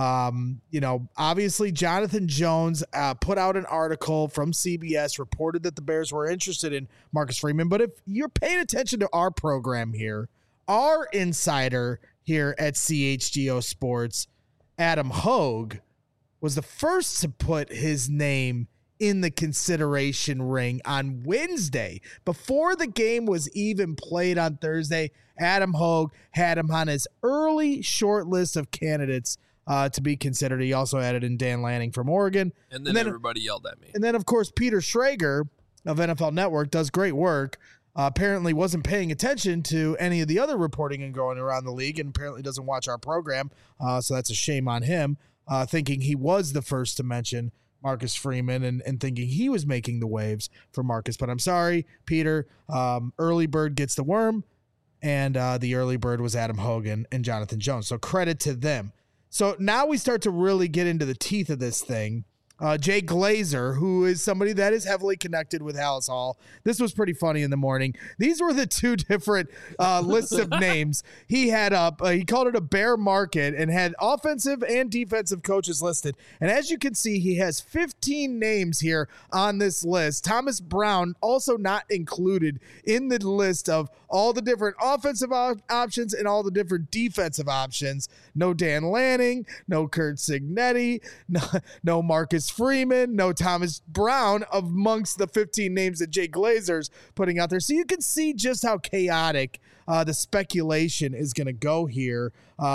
obviously Jonathan Jones put out an article from CBS, reported that the Bears were interested in Marcus Freeman. But if you're paying attention to our program here, our insider here at CHGO Sports, Adam Hogue, was the first to put his name in the consideration ring on Wednesday. Before the game was even played on Thursday, Adam Hogue had him on his early short list of candidates to be considered. He also added in Dan Lanning from Oregon. And then everybody yelled at me. And then, of course, Peter Schrager of NFL Network does great work. Apparently wasn't paying attention to any of the other reporting and going around the league, and apparently doesn't watch our program. So that's a shame on him, thinking he was the first to mention Marcus Freeman and thinking he was making the waves for Marcus. But I'm sorry, Peter. Early bird gets the worm, and the early bird was Adam Hogan and Jonathan Jones. So credit to them. So now we start to really get into the teeth of this thing. Jay Glazer, who is somebody that is heavily connected with Halas Hall. This was pretty funny in the morning. These were the two different lists of names he had up. He called it a bear market and had offensive and defensive coaches listed. And as you can see, he has 15 names here on this list. Thomas Brown also not included in the list of all the different offensive options and all the different defensive options. No Dan Lanning, no Kurt Signetti, no Marcus Freeman, no Thomas Brown amongst the 15 names that Jay Glazer's putting out there. So you can see just how chaotic the speculation is going to go here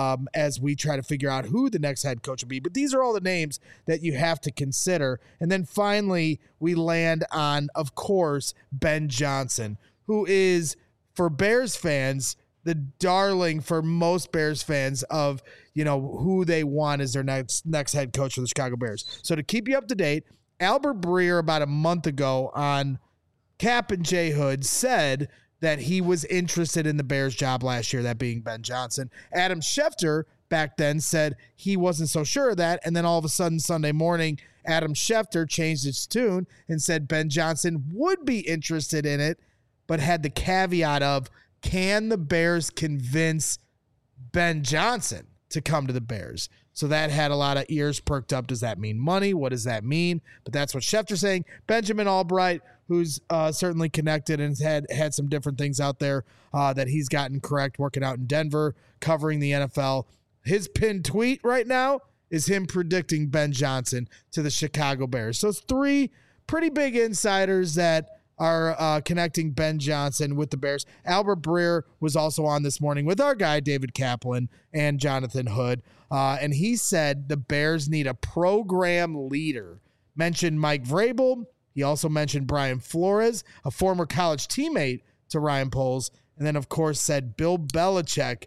as we try to figure out who the next head coach will be. But these are all the names that you have to consider. And then finally, we land on, of course, Ben Johnson, who is, for Bears fans, the darling for most Bears fans of, who they want as their next head coach for the Chicago Bears. So to keep you up to date, Albert Breer about a month ago on Cap and J Hood said that he was interested in the Bears job last year, that being Ben Johnson. Adam Schefter back then said he wasn't so sure of that. And then all of a sudden Sunday morning, Adam Schefter changed his tune and said Ben Johnson would be interested in it, but had the caveat of, can the Bears convince Ben Johnson to come to the Bears? So that had a lot of ears perked up. Does that mean money? What does that mean? But that's what Schefter's saying. Benjamin Albright, who's certainly connected and had some different things out there that he's gotten correct, working out in Denver, covering the NFL. His pinned tweet right now is him predicting Ben Johnson to the Chicago Bears. So it's three pretty big insiders that are connecting Ben Johnson with the Bears. Albert Breer was also on this morning with our guy, David Kaplan, and Jonathan Hood. And he said the Bears need a program leader. Mentioned Mike Vrabel. He also mentioned Brian Flores, a former college teammate to Ryan Poles. And then, of course, said Bill Belichick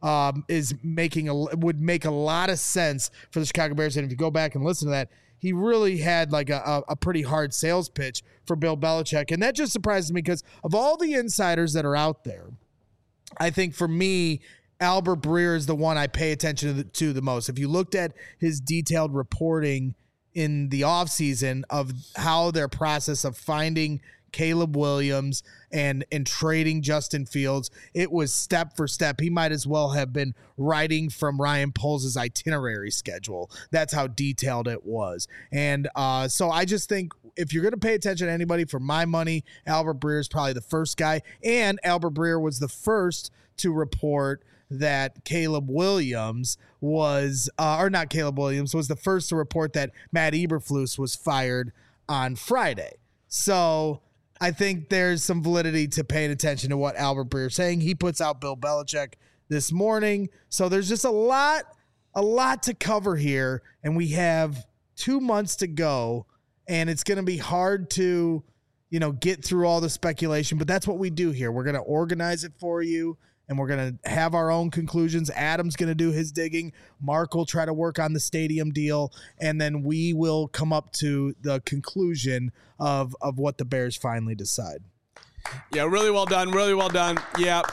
would make a lot of sense for the Chicago Bears. And if you go back and listen to that, he really had like a pretty hard sales pitch for Bill Belichick. And that just surprises me because of all the insiders that are out there, I think for me, Albert Breer is the one I pay attention to the most. If you looked at his detailed reporting in the offseason of how their process of finding Caleb Williams and trading Justin Fields, it was step for step. He might as well have been writing from Ryan Poles' itinerary schedule. That's how detailed it was. And so I just think if you're going to pay attention to anybody, for my money, Albert Breer is probably the first guy. And Albert Breer was the first to report that Caleb Williams was, or not Caleb Williams, was the first to report that Matt Eberflus was fired on Friday. So I think there's some validity to paying attention to what Albert Breer is saying. He puts out Bill Belichick this morning. So there's just a lot to cover here, and we have 2 months to go, and it's going to be hard to, get through all the speculation, but that's what we do here. We're going to organize it for you, and we're going to have our own conclusions. Adam's going to do his digging. Mark will try to work on the stadium deal, and then we will come up to the conclusion of what the Bears finally decide. Yeah, really well done. Really well done. Yeah.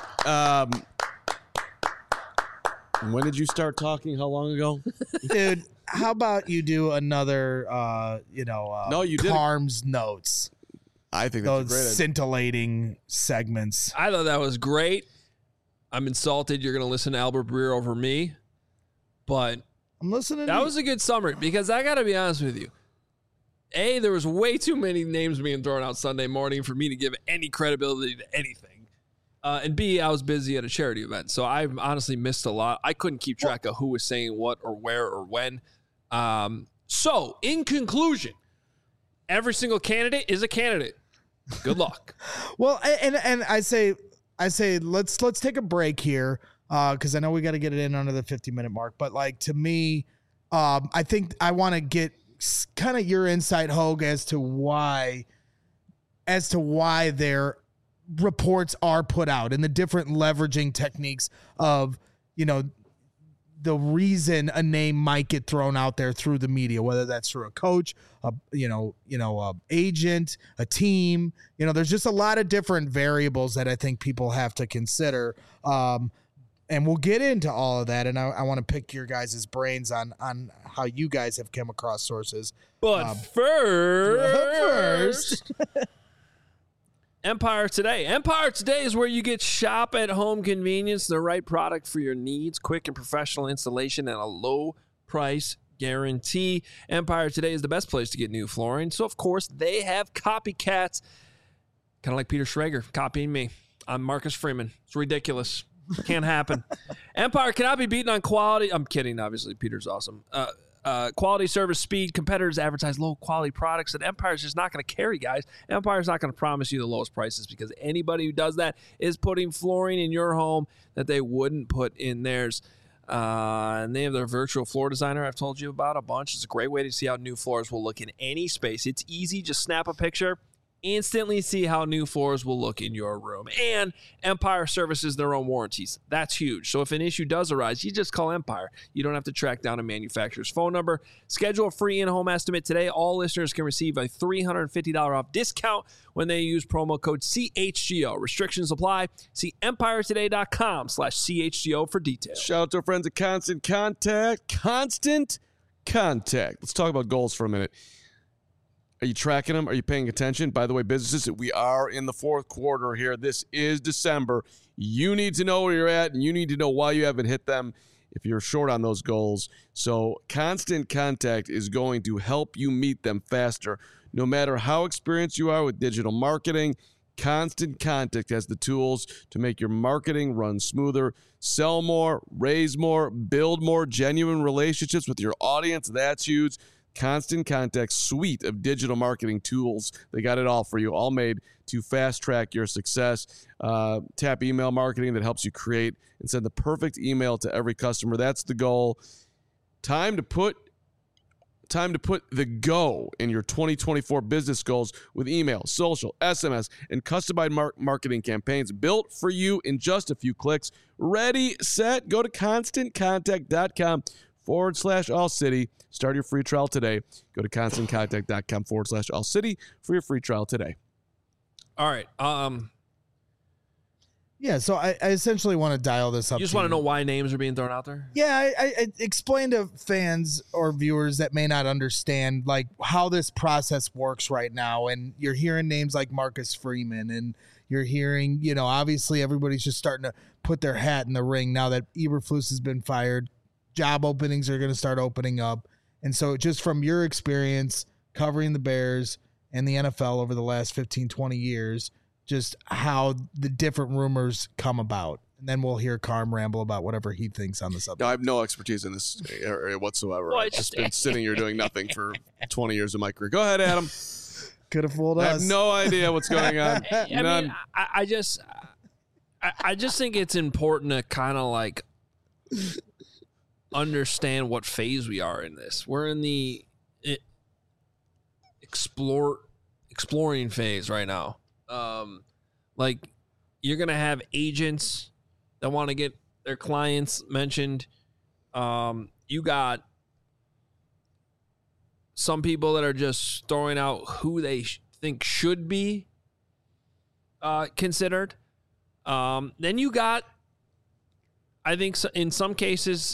When did you start talking? How long ago? Dude, how about you do another, No, you didn't. Carm's notes. I think that's Those a great idea. scintillating segments. I thought that was great. I'm insulted you're going to listen to Albert Breer over me, but I'm listening. that was a good summary because I got to be honest with you. A, there was way too many names being thrown out Sunday morning for me to give any credibility to anything. And B, I was busy at a charity event, so I honestly missed a lot. I couldn't keep track of who was saying what or where or when. So, in conclusion, every single candidate is a candidate. Good luck. Well, and I say let's take a break here because I know we got to get it in under the 50-minute mark. But to me, I think I want to get kind of your insight, Hogue, as to why their reports are put out and the different leveraging techniques of the reason a name might get thrown out there through the media, whether that's through a coach, a agent, a team. There's just a lot of different variables that I think people have to consider. And we'll get into all of that. And I want to pick your guys' brains on how you guys have come across sources. But first Empire Today. Empire Today is where you get shop at home convenience, the right product for your needs, quick and professional installation, and a low price guarantee. Empire Today is the best place to get new flooring. So, of course, they have copycats, kind of like Peter Schrager copying me. I'm Marcus Freeman. It's ridiculous. Can't happen. Empire cannot be beaten on quality. I'm kidding, obviously. Peter's awesome. Quality, service, speed. Competitors advertise low-quality products that Empire's just not going to carry, guys. Empire's not going to promise you the lowest prices because anybody who does that is putting flooring in your home that they wouldn't put in theirs. And they have their virtual floor designer I've told you about a bunch. It's a great way to see how new floors will look in any space. It's easy. Just snap a picture. Instantly see how new floors will look in your room. And Empire services their own warranties. That's huge. So if an issue does arise, you just call Empire. You don't have to track down a manufacturer's phone number. Schedule a free in-home estimate today. All listeners can receive a $350 off discount when they use promo code CHGO. Restrictions apply. See EmpireToday.com/CHGO for details. Shout out to our friends at Constant Contact. Constant Contact. Let's talk about goals for a minute. Are you tracking them? Are you paying attention? By the way, businesses, we are in the fourth quarter here. This is December. You need to know where you're at, and you need to know why you haven't hit them if you're short on those goals. So Constant Contact is going to help you meet them faster. No matter how experienced you are with digital marketing, Constant Contact has the tools to make your marketing run smoother, sell more, raise more, build more genuine relationships with your audience. That's huge. Constant Contact's suite of digital marketing tools. They got it all for you, all made to fast track your success. Tap email marketing that helps you create and send the perfect email to every customer. That's the goal. Time to put the go in your 2024 business goals with email, social, SMS, and customized marketing campaigns built for you in just a few clicks. Ready, set, go to ConstantContact.com/All-City. Start your free trial today. Go to ConstantContact.com/All-City for your free trial today. All right. Yeah, so I essentially want to dial this up. You just want to know why names are being thrown out there? Yeah, I explain to fans or viewers that may not understand how this process works right now. And you're hearing names like Marcus Freeman, and you're hearing, obviously everybody's just starting to put their hat in the ring now that Eberflus has been fired. Job openings are going to start opening up. And so just from your experience covering the Bears, and the NFL over the last 15, 20 years, just how the different rumors come about. And then we'll hear Carm ramble about whatever he thinks on the subject. No, I have no expertise in this area whatsoever. I've just been sitting here doing nothing for 20 years of my career. Go ahead, Adam. Could have fooled us. I have no idea what's going on. None. I just think it's important to kind of like understand what phase we are in this. We're in the exploring phase right now. Like you're going to have agents that want to get their clients mentioned. You got some people that are just throwing out who they think should be considered. Then you got, I think in some cases,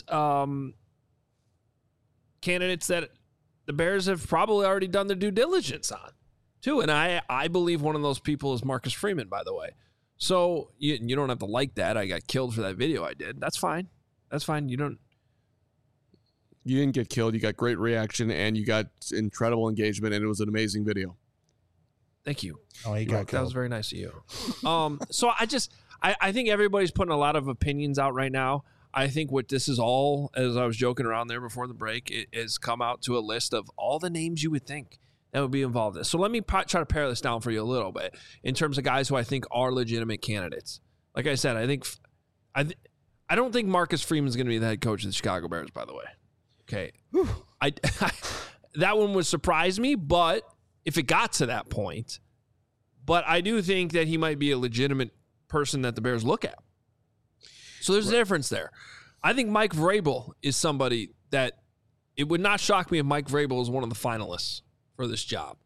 candidates that the Bears have probably already done their due diligence on too. And I believe one of those people is Marcus Freeman, by the way. So you don't have to like that. I got killed for that video I did. That's fine. That's fine. You didn't get killed. You got great reaction and you got incredible engagement, and it was an amazing video. Thank you. Oh, he got killed. That was very nice of you. So I think everybody's putting a lot of opinions out right now. I think what this is all, as I was joking around there before the break, it has come out to a list of all the names you would think that would be involved in this. So let me try to pare this down for you a little bit in terms of guys who I think are legitimate candidates. Like I said, I don't think Marcus Freeman is going to be the head coach of the Chicago Bears, by the way. Okay. That one would surprise me, but if it got to that point, but I do think that he might be a legitimate person that the Bears look at. So there's a difference there. I think Mike Vrabel is somebody that it would not shock me if Mike Vrabel is one of the finalists for this job.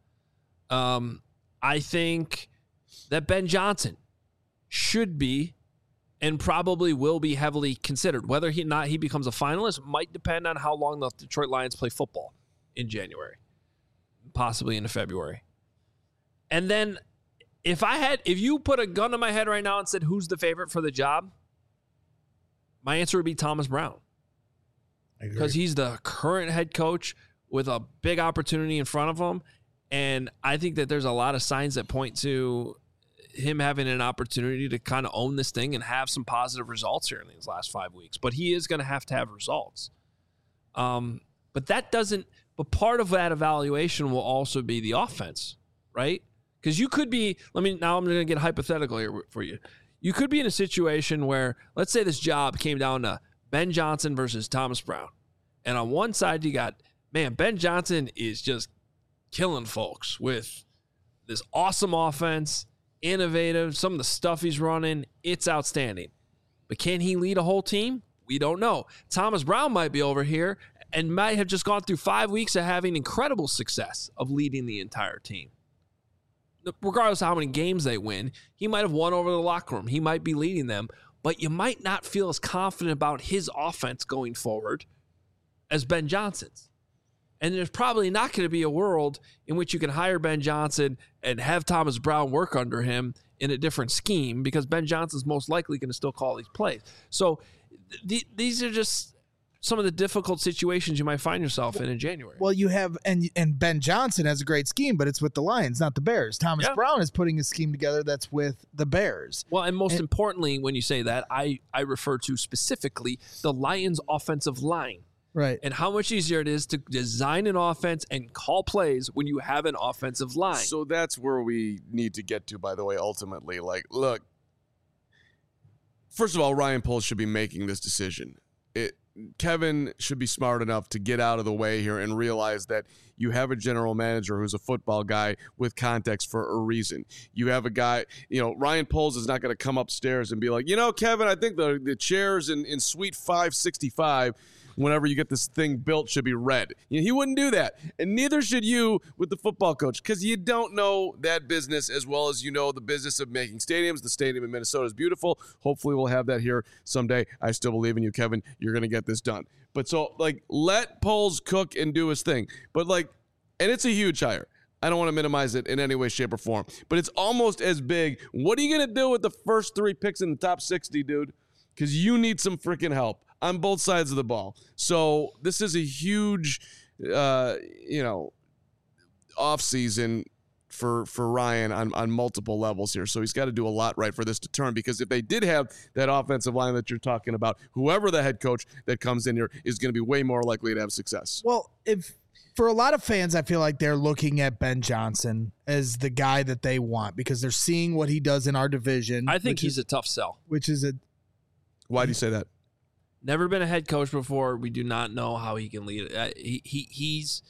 I think that Ben Johnson should be and probably will be heavily considered. Whether he becomes a finalist might depend on how long the Detroit Lions play football in January, possibly into February. And then if you put a gun to my head right now and said, who's the favorite for the job? My answer would be Thomas Brown. Because he's the current head coach with a big opportunity in front of him. And I think that there's a lot of signs that point to him having an opportunity to kind of own this thing and have some positive results here in these last 5 weeks. But he is going to have results. But part of that evaluation will also be the offense, right? Because you could be, now I'm going to get hypothetical here for you. You could be in a situation where, let's say this job came down to Ben Johnson versus Thomas Brown. And on one side, you got, Ben Johnson is just killing folks with this awesome offense, innovative, some of the stuff he's running, it's outstanding. But can he lead a whole team? We don't know. Thomas Brown might be over here and might have just gone through 5 weeks of having incredible success of leading the entire team. Regardless of how many games they win, he might have won over the locker room. He might be leading them, but you might not feel as confident about his offense going forward as Ben Johnson's. And there's probably not going to be a world in which you can hire Ben Johnson and have Thomas Brown work under him in a different scheme, because Ben Johnson's most likely going to still call these plays. So these are just some of the difficult situations you might find yourself in January. Well, you have, and Ben Johnson has a great scheme, but it's with the Lions, not the Bears. Thomas Brown is putting a scheme together that's with the Bears. Well, and most importantly, when you say that, I refer to specifically the Lions' offensive line. Right. And how much easier it is to design an offense and call plays when you have an offensive line. So that's where we need to get to, by the way, ultimately. Like, look, first of all, Ryan Poles should be making this decision. Kevin should be smart enough to get out of the way here and realize that you have a general manager who's a football guy with context for a reason. You have a guy, Ryan Poles is not going to come upstairs and be like, Kevin, I think the chairs in suite 565, whenever you get this thing built, should be red. He wouldn't do that. And neither should you with the football coach, because you don't know that business as well as you know the business of making stadiums. The stadium in Minnesota is beautiful. Hopefully we'll have that here someday. I still believe in you, Kevin. You're going to get this done. But so, let Poles cook and do his thing. But, and it's a huge hire. I don't want to minimize it in any way, shape, or form. But it's almost as big. What are you going to do with the first 3 picks in the top 60, dude? Because you need some freaking help on both sides of the ball. So this is a huge, off season for Ryan on multiple levels here. So he's got to do a lot right for this to turn, because if they did have that offensive line that you're talking about, whoever the head coach that comes in here is going to be way more likely to have success. Well, for a lot of fans, I feel like they're looking at Ben Johnson as the guy that they want because they're seeing what he does in our division. I think he's a tough sell. Why do you say that? Never been a head coach before. We do not know how he can lead it. He's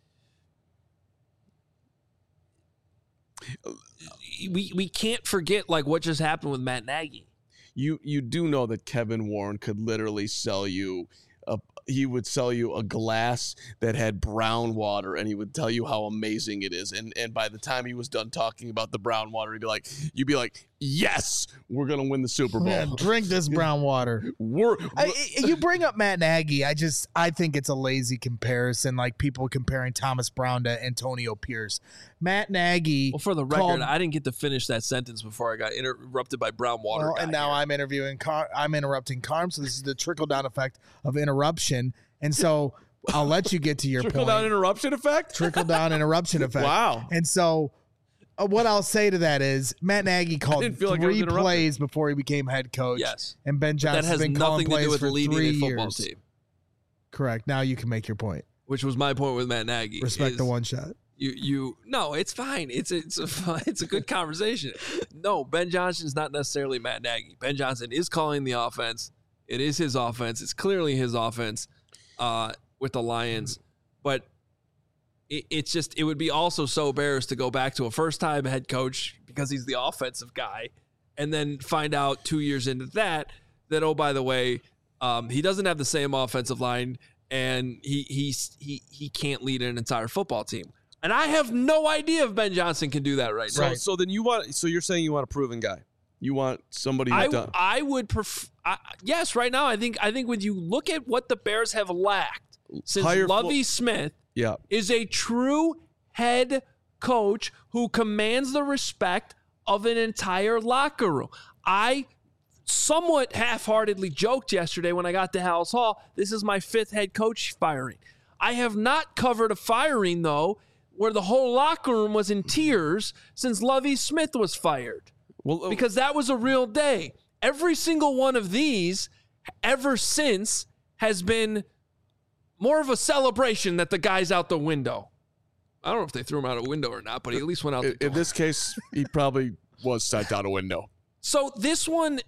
we can't forget like what just happened with Matt Nagy. You do know that Kevin Warren could literally sell you he would sell you a glass that had brown water, and he would tell you how amazing it is. And by the time he was done talking about the brown water, you'd be like, yes, we're going to win the Super Bowl. Yeah, drink this brown water. You bring up Matt Nagy. I think it's a lazy comparison, like people comparing Thomas Brown to Antonio Pierce. Matt Nagy. Well, for the record, I didn't get to finish that sentence before I got interrupted by brown water. And now I'm interrupting Carm, so this is the trickle-down effect of interruption. And so I'll let you get to your point. Trickle-down interruption effect? Trickle-down interruption effect. Wow. And so what I'll say to that is Matt Nagy called 3 plays before he became head coach. Yes. And Ben Johnson has been calling plays for 3 years. Football team. Correct. Now you can make your point. Which was my point with Matt Nagy. Respect the one shot. No, it's fine. It's a good conversation. No, Ben Johnson is not necessarily Matt Nagy. Ben Johnson is calling the offense. It is his offense. It's clearly his offense with the Lions. But it would be also so Bears to go back to a first-time head coach because he's the offensive guy and then find out 2 years into that, oh, by the way, he doesn't have the same offensive line and he can't lead an entire football team. And I have no idea if Ben Johnson can do that right now. So then you're saying you want a proven guy. You want somebody who's done. I would prefer. Yes, right now I think when you look at what the Bears have lacked since Lovie Smith is a true head coach who commands the respect of an entire locker room. I somewhat half-heartedly joked yesterday when I got to Hallis Hall, this is my 5th head coach firing. I have not covered a firing, though, where the whole locker room was in tears since Lovie Smith was fired. Well, because that was a real day. Every single one of these ever since has been more of a celebration that the guy's out the window. I don't know if they threw him out a window or not, but he at least went out the door. In this case, he probably was sent out a window. So this one,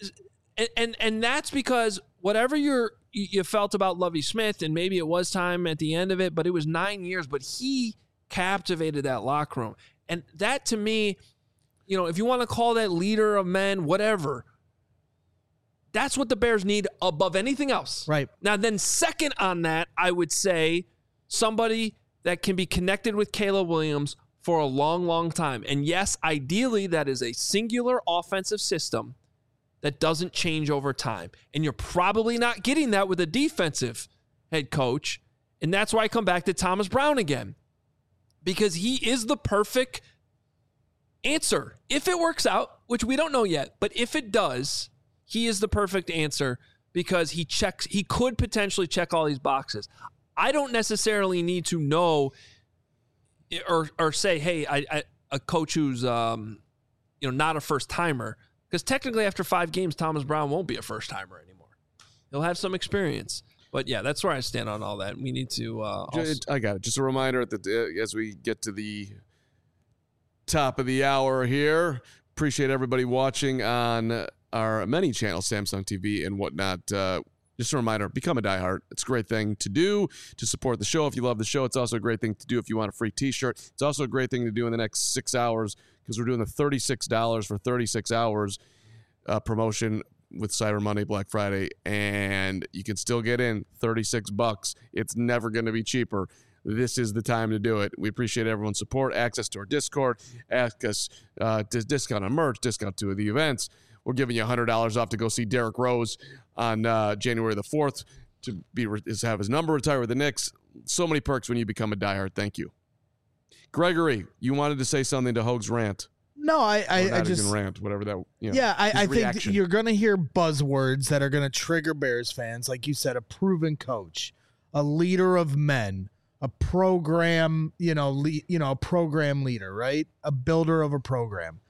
and that's because whatever you felt about Lovie Smith, and maybe it was time at the end of it, but it was 9 years, but he captivated that locker room. And that to me, if you want to call that leader of men, whatever, that's what the Bears need above anything else. Right. Now, then second on that, I would say somebody that can be connected with Caleb Williams for a long, long time. And yes, ideally, that is a singular offensive system that doesn't change over time. And you're probably not getting that with a defensive head coach. And that's why I come back to Thomas Brown again. Because he is the perfect answer. If it works out, which we don't know yet, but if it does, he is the perfect answer because he could potentially check all these boxes. I don't necessarily need to know or say, hey, a coach who's not a first timer, because technically after 5 games, Thomas Brown won't be a first timer anymore. He'll have some experience. But yeah, that's where I stand on all that. We need to. I got it. Just a reminder as we get to the top of the hour here. Appreciate everybody watching on our many channels, Samsung TV and whatnot. Just a reminder, become a diehard. It's a great thing to do to support the show. If you love the show, it's also a great thing to do if you want a free t-shirt. It's also a great thing to do in the next 6 hours because we're doing the $36 for 36 hours promotion with Cyber Monday, Black Friday, and you can still get in $36. It's never going to be cheaper. This is the time to do it. We appreciate everyone's support, access to our Discord, access to discount on merch, discount to the events. We're giving you $100 off to go see Derrick Rose on January the 4th to have his number retired with the Knicks. So many perks when you become a diehard. Thank you. Gregory, you wanted to say something to Hoag's rant. No, I just rant, whatever that. I think you're going to hear buzzwords that are going to trigger Bears fans, like you said, a proven coach, a leader of men, a program, a program leader, right? A builder of a program.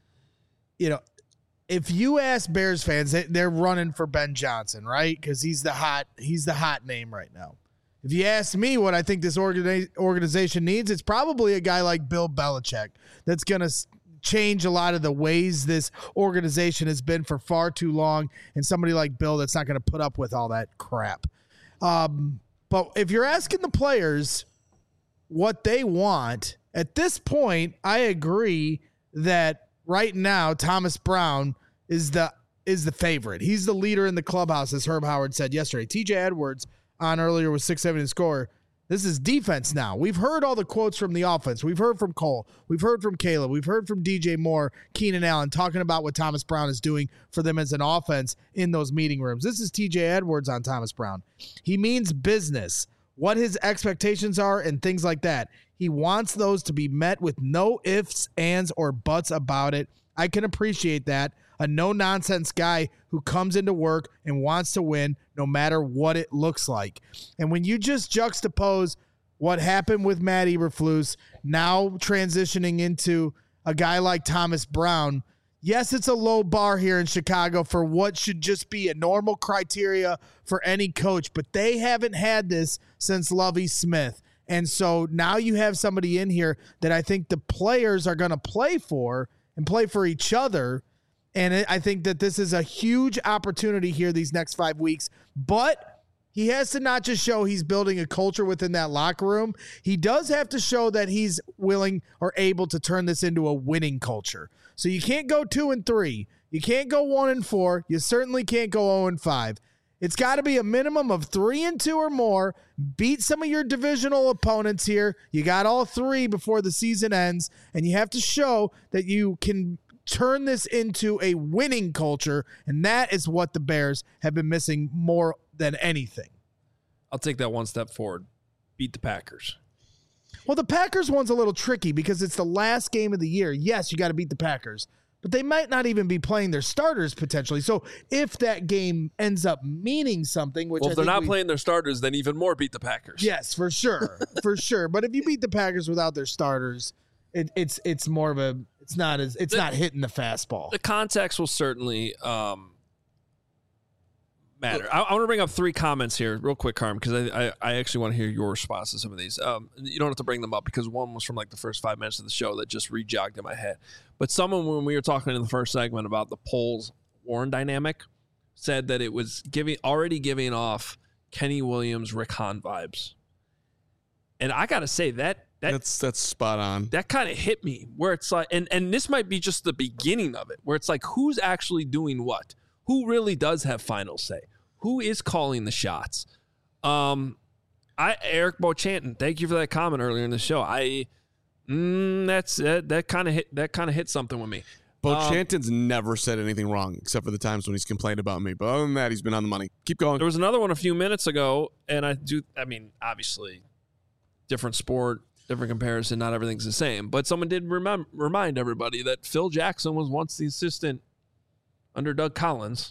If you ask Bears fans, they're running for Ben Johnson, right? Because he's the hot name right now. If you ask me what I think this organization needs, it's probably a guy like Bill Belichick that's going to change a lot of the ways this organization has been for far too long, and somebody like Bill that's not going to put up with all that crap. But if you're asking the players what they want, at this point, I agree that right now Thomas Brown is the favorite. He's the leader in the clubhouse, as Herb Howard said yesterday. TJ Edwards on earlier with 6-7 in score. This is defense now. We've heard all the quotes from the offense. We've heard from Cole. We've heard from Caleb. We've heard from DJ Moore, Keenan Allen, talking about what Thomas Brown is doing for them as an offense in those meeting rooms. This is TJ Edwards on Thomas Brown. He means business, what his expectations are and things like that. He wants those to be met with no ifs, ands, or buts about it. I can appreciate that. A no-nonsense guy who comes into work and wants to win no matter what it looks like. And when you just juxtapose what happened with Matt Eberflus, now transitioning into a guy like Thomas Brown, yes, it's a low bar here in Chicago for what should just be a normal criteria for any coach, but they haven't had this since Lovie Smith. And so now you have somebody in here that I think the players are going to play for and play for each other. And I think that this is a huge opportunity here these next 5 weeks. But he has to not just show he's building a culture within that locker room. He does have to show that he's willing or able to turn this into a winning culture. So you can't go 2-3. You can't go 1-4. You certainly can't go 0-5. It's got to be a minimum of 3-2 or more. Beat some of your divisional opponents here. You got all three before the season ends. And you have to show that you can turn this into a winning culture, and that is what the Bears have been missing more than anything. I'll take that one step forward. Beat the Packers. Well, the Packers one's a little tricky because it's the last game of the year. Yes, you got to beat the Packers, but they might not even be playing their starters potentially. So if that game ends up meaning something, which if they're not playing their starters, then even more beat the Packers. Yes, for sure, for sure. But if you beat the Packers without their starters, it's more of a it's not hitting the fastball. The context will certainly matter. I want to bring up three comments here real quick, Carm, because I actually want to hear your response to some of these. You don't have to bring them up because one was from like the first 5 minutes of the show that just rejogged in my head. But someone, when we were talking in the first segment about the Poles-Warren dynamic, said that it was already giving off Kenny Williams, Rick Hahn vibes. And I got to say that's spot on. That kind of hit me where it's like, and this might be just the beginning of it, where it's like, who's actually doing what? Who really does have final say? Who is calling the shots? Eric Beauchanton, thank you for that comment earlier in the show. That kind of hit something with me. Beauchanton's never said anything wrong except for the times when he's complained about me. But other than that, he's been on the money. Keep going. There was another one a few minutes ago, and obviously, different sport, different comparison, not everything's the same. But someone did remind everybody that Phil Jackson was once the assistant under Doug Collins.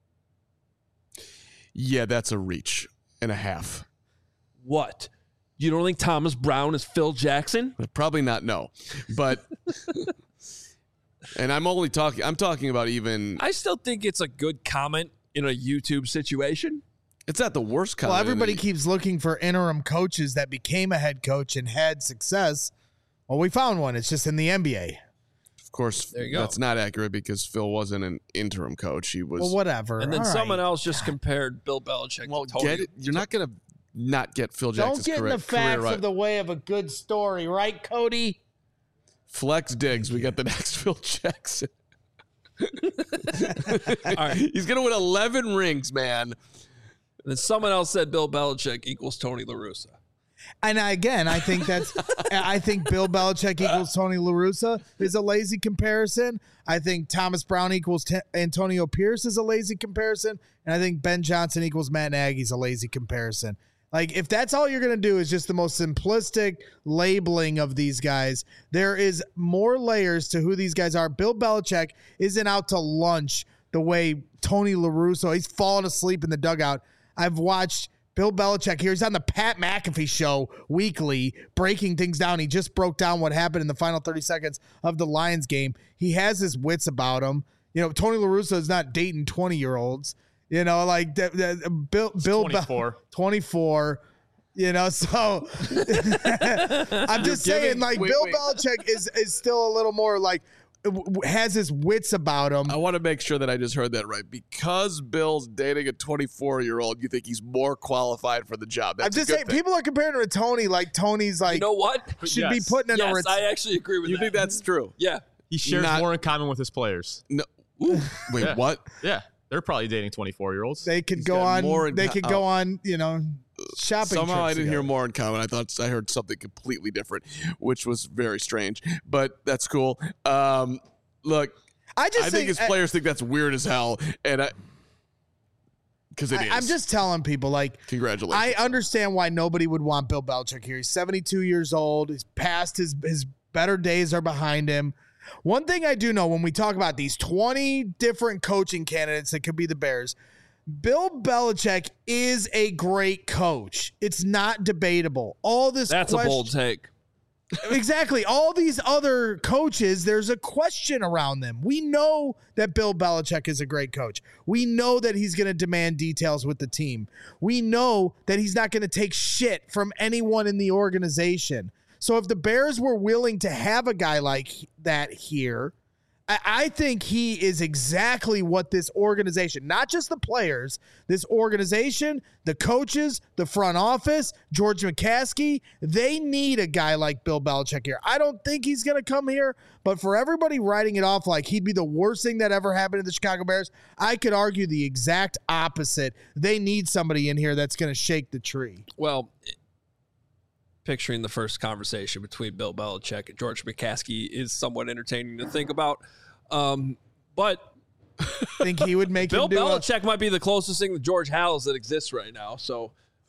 Yeah, that's a reach and a half. What? You don't think Thomas Brown is Phil Jackson? Probably not, no. But and I'm talking about even. I still think it's a good comment in a YouTube situation. It's not the worst comment. Well, everybody keeps looking for interim coaches that became a head coach and had success. Well, we found one. It's just in the NBA. Of course, there you go. That's not accurate because Phil wasn't an interim coach. He was. Well, whatever. And then someone else just compared Bill Belichick to Tony. You're not going to not get Phil Jackson's career. Don't get in the facts right. of the way of a good story, right, Cody? Flex Diggs. We got the next Phil Jackson. All right. He's going to win 11 rings, man. And then someone else said Bill Belichick equals Tony La Russa. And again, I think Bill Belichick equals Tony La Russa is a lazy comparison. I think Thomas Brown equals Antonio Pierce is a lazy comparison. And I think Ben Johnson equals Matt Nagy is a lazy comparison. Like, if that's all you're going to do is just the most simplistic labeling of these guys, there is more layers to who these guys are. Bill Belichick isn't out to lunch the way Tony La Russa, he's falling asleep in the dugout. I've watched Bill Belichick here. He's on the Pat McAfee show weekly, breaking things down. He just broke down what happened in the final 30 seconds of the Lions game. He has his wits about him. Tony La Russa is not dating 20-year-olds. Bill 24. 24. So I'm just saying, Bill Belichick is still a little more has his wits about him. I want to make sure that I just heard that right. Because Bill's dating a 24-year-old, you think he's more qualified for the job. That's I'm just saying, people are comparing him to Tony. Tony's you know what? should be putting in yes, I actually agree with you that. think that's true? Yeah. He shares more in common with his players. No. Ooh, wait, Yeah. what? Yeah. They're probably dating 24-year-olds. They could He's go got on. more in They co- could go on. Shopping. Somehow I trips didn't hear together. more in common. I thought I heard something completely different, which was very strange. But that's cool. Look, I think his players think that's weird as hell, and because it is. I'm just telling people, Congratulations. I understand why nobody would want Bill Belichick here. He's 72 years old. He's past his better days are behind him. One thing I do know when we talk about these 20 different coaching candidates that could be the Bears, Bill Belichick is a great coach. It's not debatable. That's a bold take. Exactly. All these other coaches, there's a question around them. We know that Bill Belichick is a great coach. We know that he's going to demand details with the team. We know that he's not going to take shit from anyone in the organization. So if the Bears were willing to have a guy like that here, I think he is exactly what this organization, not just the players, this organization, the coaches, the front office, George McCaskey, they need a guy like Bill Belichick here. I don't think he's going to come here, but for everybody writing it off like he'd be the worst thing that ever happened to the Chicago Bears, I could argue the exact opposite. They need somebody in here that's going to shake the tree. Well, picturing the first conversation between Bill Belichick and George McCaskey is somewhat entertaining to think about. But think he would make Bill him do Belichick might be the closest thing to George Howells that exists right now. So,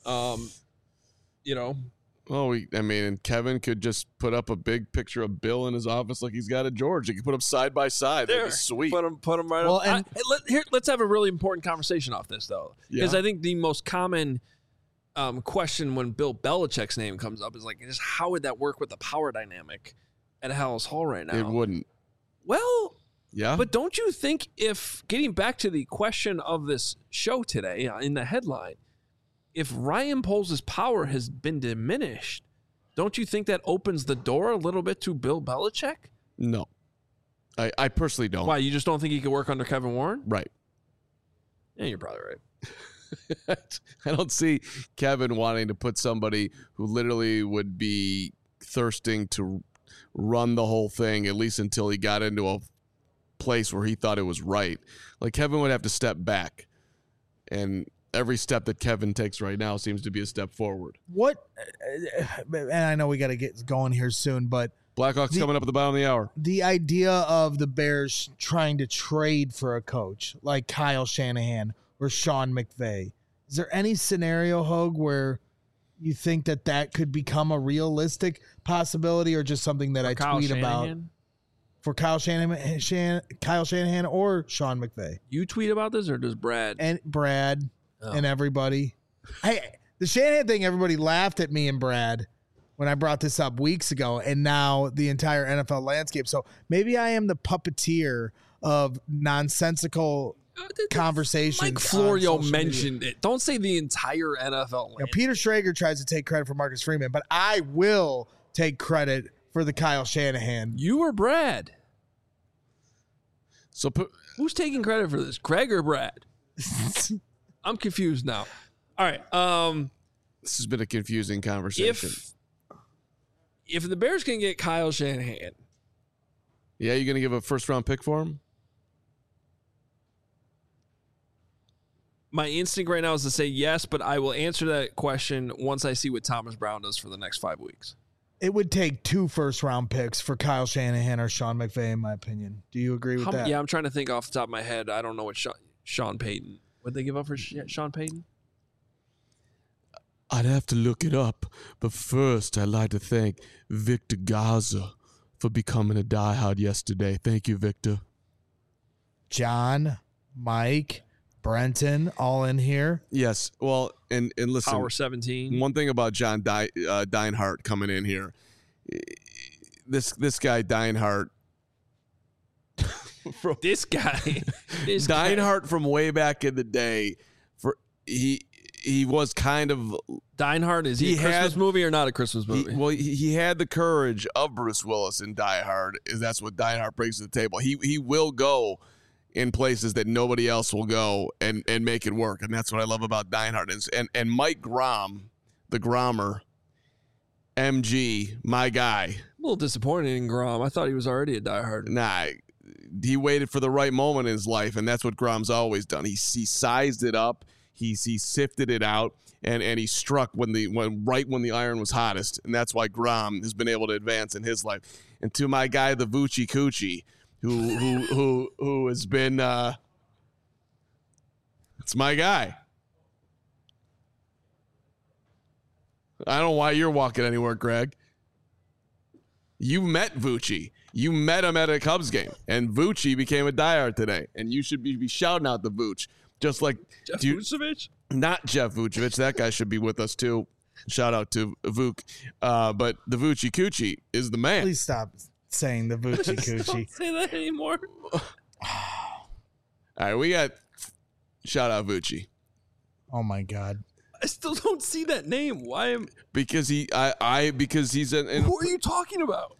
Well, and Kevin could just put up a big picture of Bill in his office like he's got a George. He could put them side by side. That'd be sweet. Put them right Well, up. Let's have a really important conversation off this, though. Because Yeah. I think the most common question when Bill Belichick's name comes up is just how would that work with the power dynamic at Hallis Hall right now? It wouldn't. Well, Yeah. but don't you think if, getting back to the question of this show today in the headline, if Ryan Poles' power has been diminished, don't you think that opens the door a little bit to Bill Belichick? No. I personally don't. Why, you just don't think he could work under Kevin Warren? Right. Yeah, you're probably right. I don't see Kevin wanting to put somebody who literally would be thirsting to run the whole thing, at least until he got into a place where he thought it was right. Kevin would have to step back. And every step that Kevin takes right now seems to be a step forward. And I know we got to get going here soon, but Blackhawks coming up at the bottom of the hour. the idea of the Bears trying to trade for a coach like Kyle Shanahan or Sean McVay, is there any scenario, Hogue, where you think that could become a realistic possibility, or just something that I Kyle tweet about Shanahan? for Kyle Shanahan or Sean McVay You tweet about this, or does Brad? and Brad Oh. and everybody? The Shanahan thing, everybody laughed at me and Brad when I brought this up weeks ago, and now the entire NFL landscape. So maybe I am the puppeteer of nonsensical conversations. Mike on Florio social mentioned media. it. Don't say the entire NFL. Now, Peter Schrager tries to take credit for Marcus Freeman, but I will take credit for the Kyle Shanahan. You or Brad? So Who's taking credit for this, Greg or Brad? I'm confused now. All right. this has been a confusing conversation. If the Bears can get Kyle Shanahan, Yeah, you going to give a first-round pick for him? my instinct right now is to say yes, but I will answer that question once I see what Thomas Brown does for the next 5 weeks. It would take 2 first-round picks for Kyle Shanahan or Sean McVay, in my opinion. Do you agree with that? Yeah, I'm trying to think off the top of my head. I don't know what Sean Payton. What did they give up for Sean Payton? I'd have to look it up, but first I'd like to thank Victor Garza for becoming a diehard yesterday. Thank you, Victor. John, Mike, Brenton, all in here. Yes. Well, and listen, Power 17. one thing about John Deinhardt coming in here, this guy Deinhardt. This guy. Deinhardt from way back in the day, he was kind of Deinhardt, is he a Christmas movie or not a Christmas movie? He had the courage of Bruce Willis in Die Hard. That's what Deinhardt brings to the table. He will go in places that nobody else will go and make it work, and that's what I love about Deinhardt. And Mike Grom, the Grommer, MG, my guy. A little disappointed in Grom. I thought he was already a diehard. Nah, he waited for the right moment in his life, and that's what Grom's always done. He sized it up. He sifted it out, and he struck when the iron was hottest, and that's why Grom has been able to advance in his life. And to my guy, the Vucci Coochie, who has been, it's my guy. I don't know why you're walking anywhere, Greg. You met Vucci. You met him at a Cubs game, and Vucci became a diehard today, and you should be shouting out the Vooch. Just like Jeff Vucevic? Not Jeff Vucevic. That guy should be with us too. Shout out to Vuk. But the Vucci Coochie is the man. Please stop saying the Vucci Coochie. Don't say that anymore. All right, we got shout out Vucci. Oh my God. I still don't see that name. Why am Because he's who are you talking about?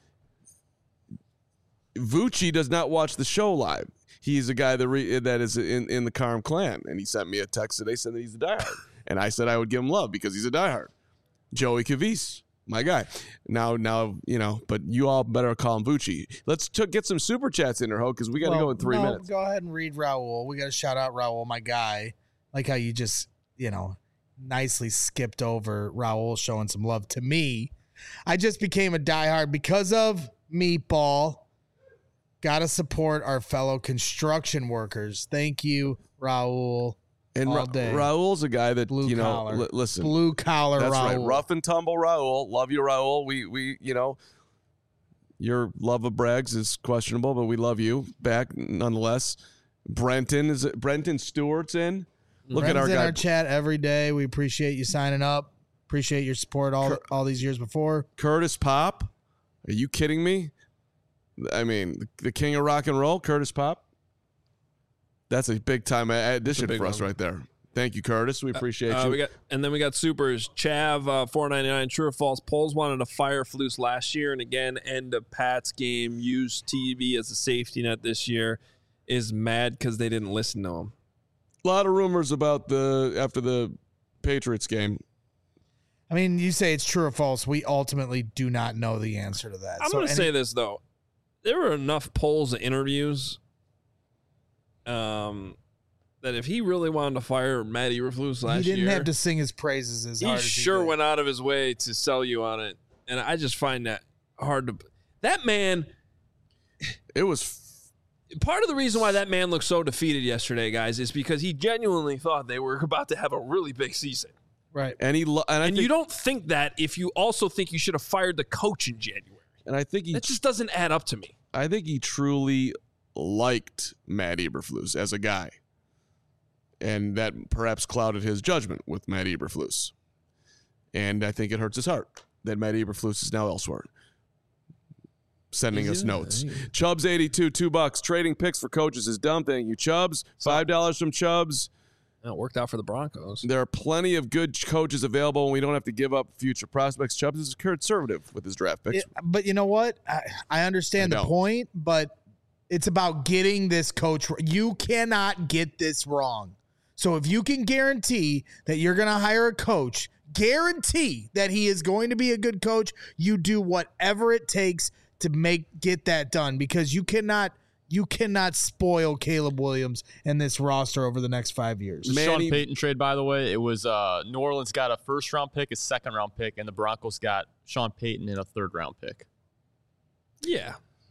Vucci does not watch the show live. He's a guy that is in the Karm clan, and he sent me a text today saying that he's a diehard, and I said I would give him love because he's a diehard. Joey Cavise, my guy. Now, but you all better call him Vucci. Let's get some super chats in there, Ho, because we got to go in 3 minutes. Go ahead and read Raul. We got to shout out Raul, my guy. Like how you just, nicely skipped over Raul showing some love to me. I just became a diehard because of Meatball. Got to support our fellow construction workers. Thank you, Raul. And all day. Raul's a guy that, Blue collar. Listen. Blue collar that's Raul. Right. Rough and tumble Raul. Love you, Raul. We your love of Braggs is questionable, but we love you back nonetheless. Brenton Stewart's in. Look at our in guy. Our chat every day. We appreciate you signing up. Appreciate your support all these years before. Curtis Pop. Are you kidding me? I mean, the king of rock and roll, Curtis Pop. That's a big time addition for us right there. Thank you, Curtis. We appreciate you. We got supers. Chav, $4.99. True or false? Poles wanted to fire Flus last year, and again, end of Pat's game. Use TV as a safety net this year. Is mad because they didn't listen to him. A lot of rumors about after the Patriots game. I mean, you say it's true or false. We ultimately do not know the answer to that. I'm going to say this, though. There were enough polls and interviews that if he really wanted to fire Matt Eberflus last year, he didn't have to sing his praises as hard as he did. Went out of his way to sell you on it. And I just find that hard to... That man... It was... Part of the reason why that man looked so defeated yesterday, guys, is because he genuinely thought they were about to have a really big season. Right. And you don't think that if you also think you should have fired the coach in January. And I think that just doesn't add up to me. I think he truly liked Matt Eberflus as a guy. And that perhaps clouded his judgment with Matt Eberflus. And I think it hurts his heart that Matt Eberflus is now elsewhere. Sending us notes. Chubbs82, $2. Trading picks for coaches is dumb. Thank you, Chubbs. $5 from Chubbs. It worked out for the Broncos. There are plenty of good coaches available, and we don't have to give up future prospects. Chubbs is conservative with his draft picks. But you know what? I understand the point, but it's about getting this coach. You cannot get this wrong. So if you can guarantee that you're going to hire a coach, guarantee that he is going to be a good coach, you do whatever it takes to get that done, because you cannot spoil Caleb Williams and this roster over the next 5 years. The Sean Payton trade, by the way, it was New Orleans got a first-round pick, a second-round pick, and the Broncos got Sean Payton in a third-round pick. Yeah.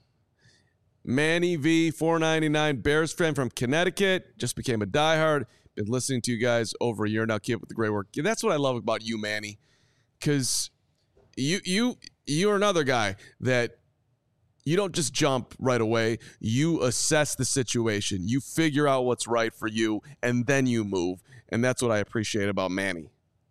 Manny V, $4.99, Bears fan from Connecticut, just became a diehard. Been listening to you guys over a year now. Keep up with the great work. Yeah, that's what I love about you, Manny, because you're another guy that you don't just jump right away. You assess the situation. You figure out what's right for you, and then you move. And that's what I appreciate about Manny.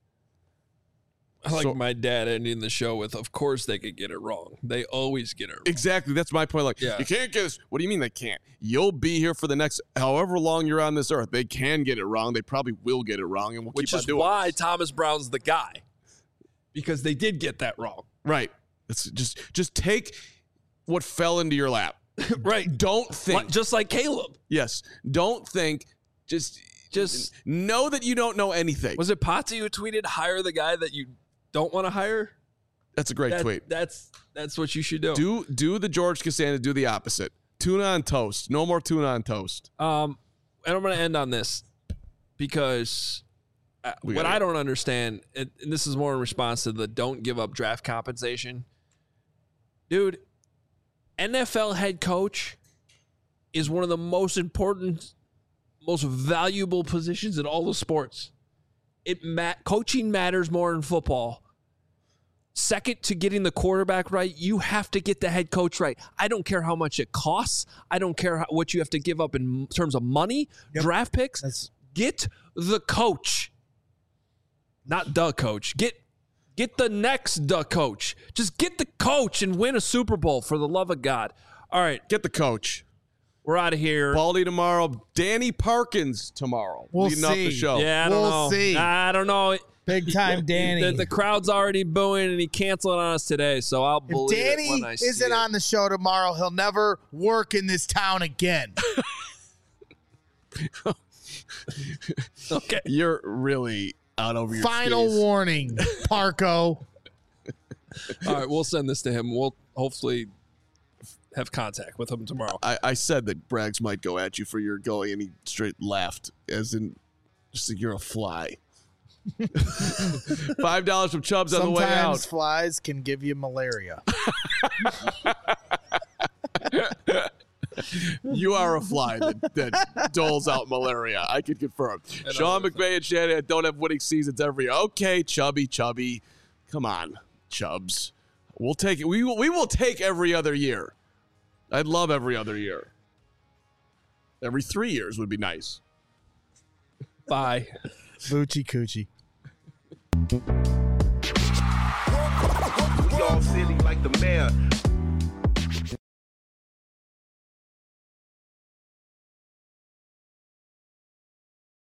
I like my dad ending the show with, of course they could get it wrong. They always get it wrong. Exactly. That's my point. Like, you can't get this. What do you mean they can't? You'll be here for the next however long you're on this earth. They can get it wrong. They probably will get it wrong, and we'll keep on doing it. Which is why Thomas Brown's the guy. Because they did get that wrong. Right. It's just take what fell into your lap. Right. Don't think. Just like Caleb. Yes. Don't think. Just know that you don't know anything. Was it Potsy who tweeted, hire the guy that you don't want to hire? That's a great tweet. That's what you should do. Do the George Costanza, do the opposite. Tuna on toast. No more tuna on toast. And I'm going to end on this because what I don't understand, and this is more in response to the don't give up draft compensation. Dude, NFL head coach is one of the most important, most valuable positions in all the sports. Coaching matters more in football. Second to getting the quarterback right, you have to get the head coach right. I don't care how much it costs. I don't care what you have to give up in terms of money, draft picks. Get the coach. Not the coach. Get the next coach. Just get the coach and win a Super Bowl, for the love of God. All right. Get the coach. We're out of here. Baldy tomorrow. Danny Parkins tomorrow. We'll leading up the show. Yeah, I don't know. We'll see. I don't know. Big time Danny. The crowd's already booing, and he canceled on us today, so I'll believe it when I see it. If Danny isn't on the show tomorrow, he'll never work in this town again. Okay. You're really out over your Final skis. warning, Parco. All right, we'll send this to him. We'll hopefully have contact with him tomorrow. I said that Braggs might go at you for your goalie, and he straight laughed, as in, just like you're a fly. $5 from Chubbs on the way out. Sometimes flies can give you malaria. You are a fly that doles out malaria. I can confirm. Sean McVay and Shanahan don't have winning seasons every year. Okay, Chubby. Come on, Chubbs. We'll take it. We will take every other year. I'd love every other year. Every 3 years would be nice. Bye. Boochie coochie. We all silly like the mayor.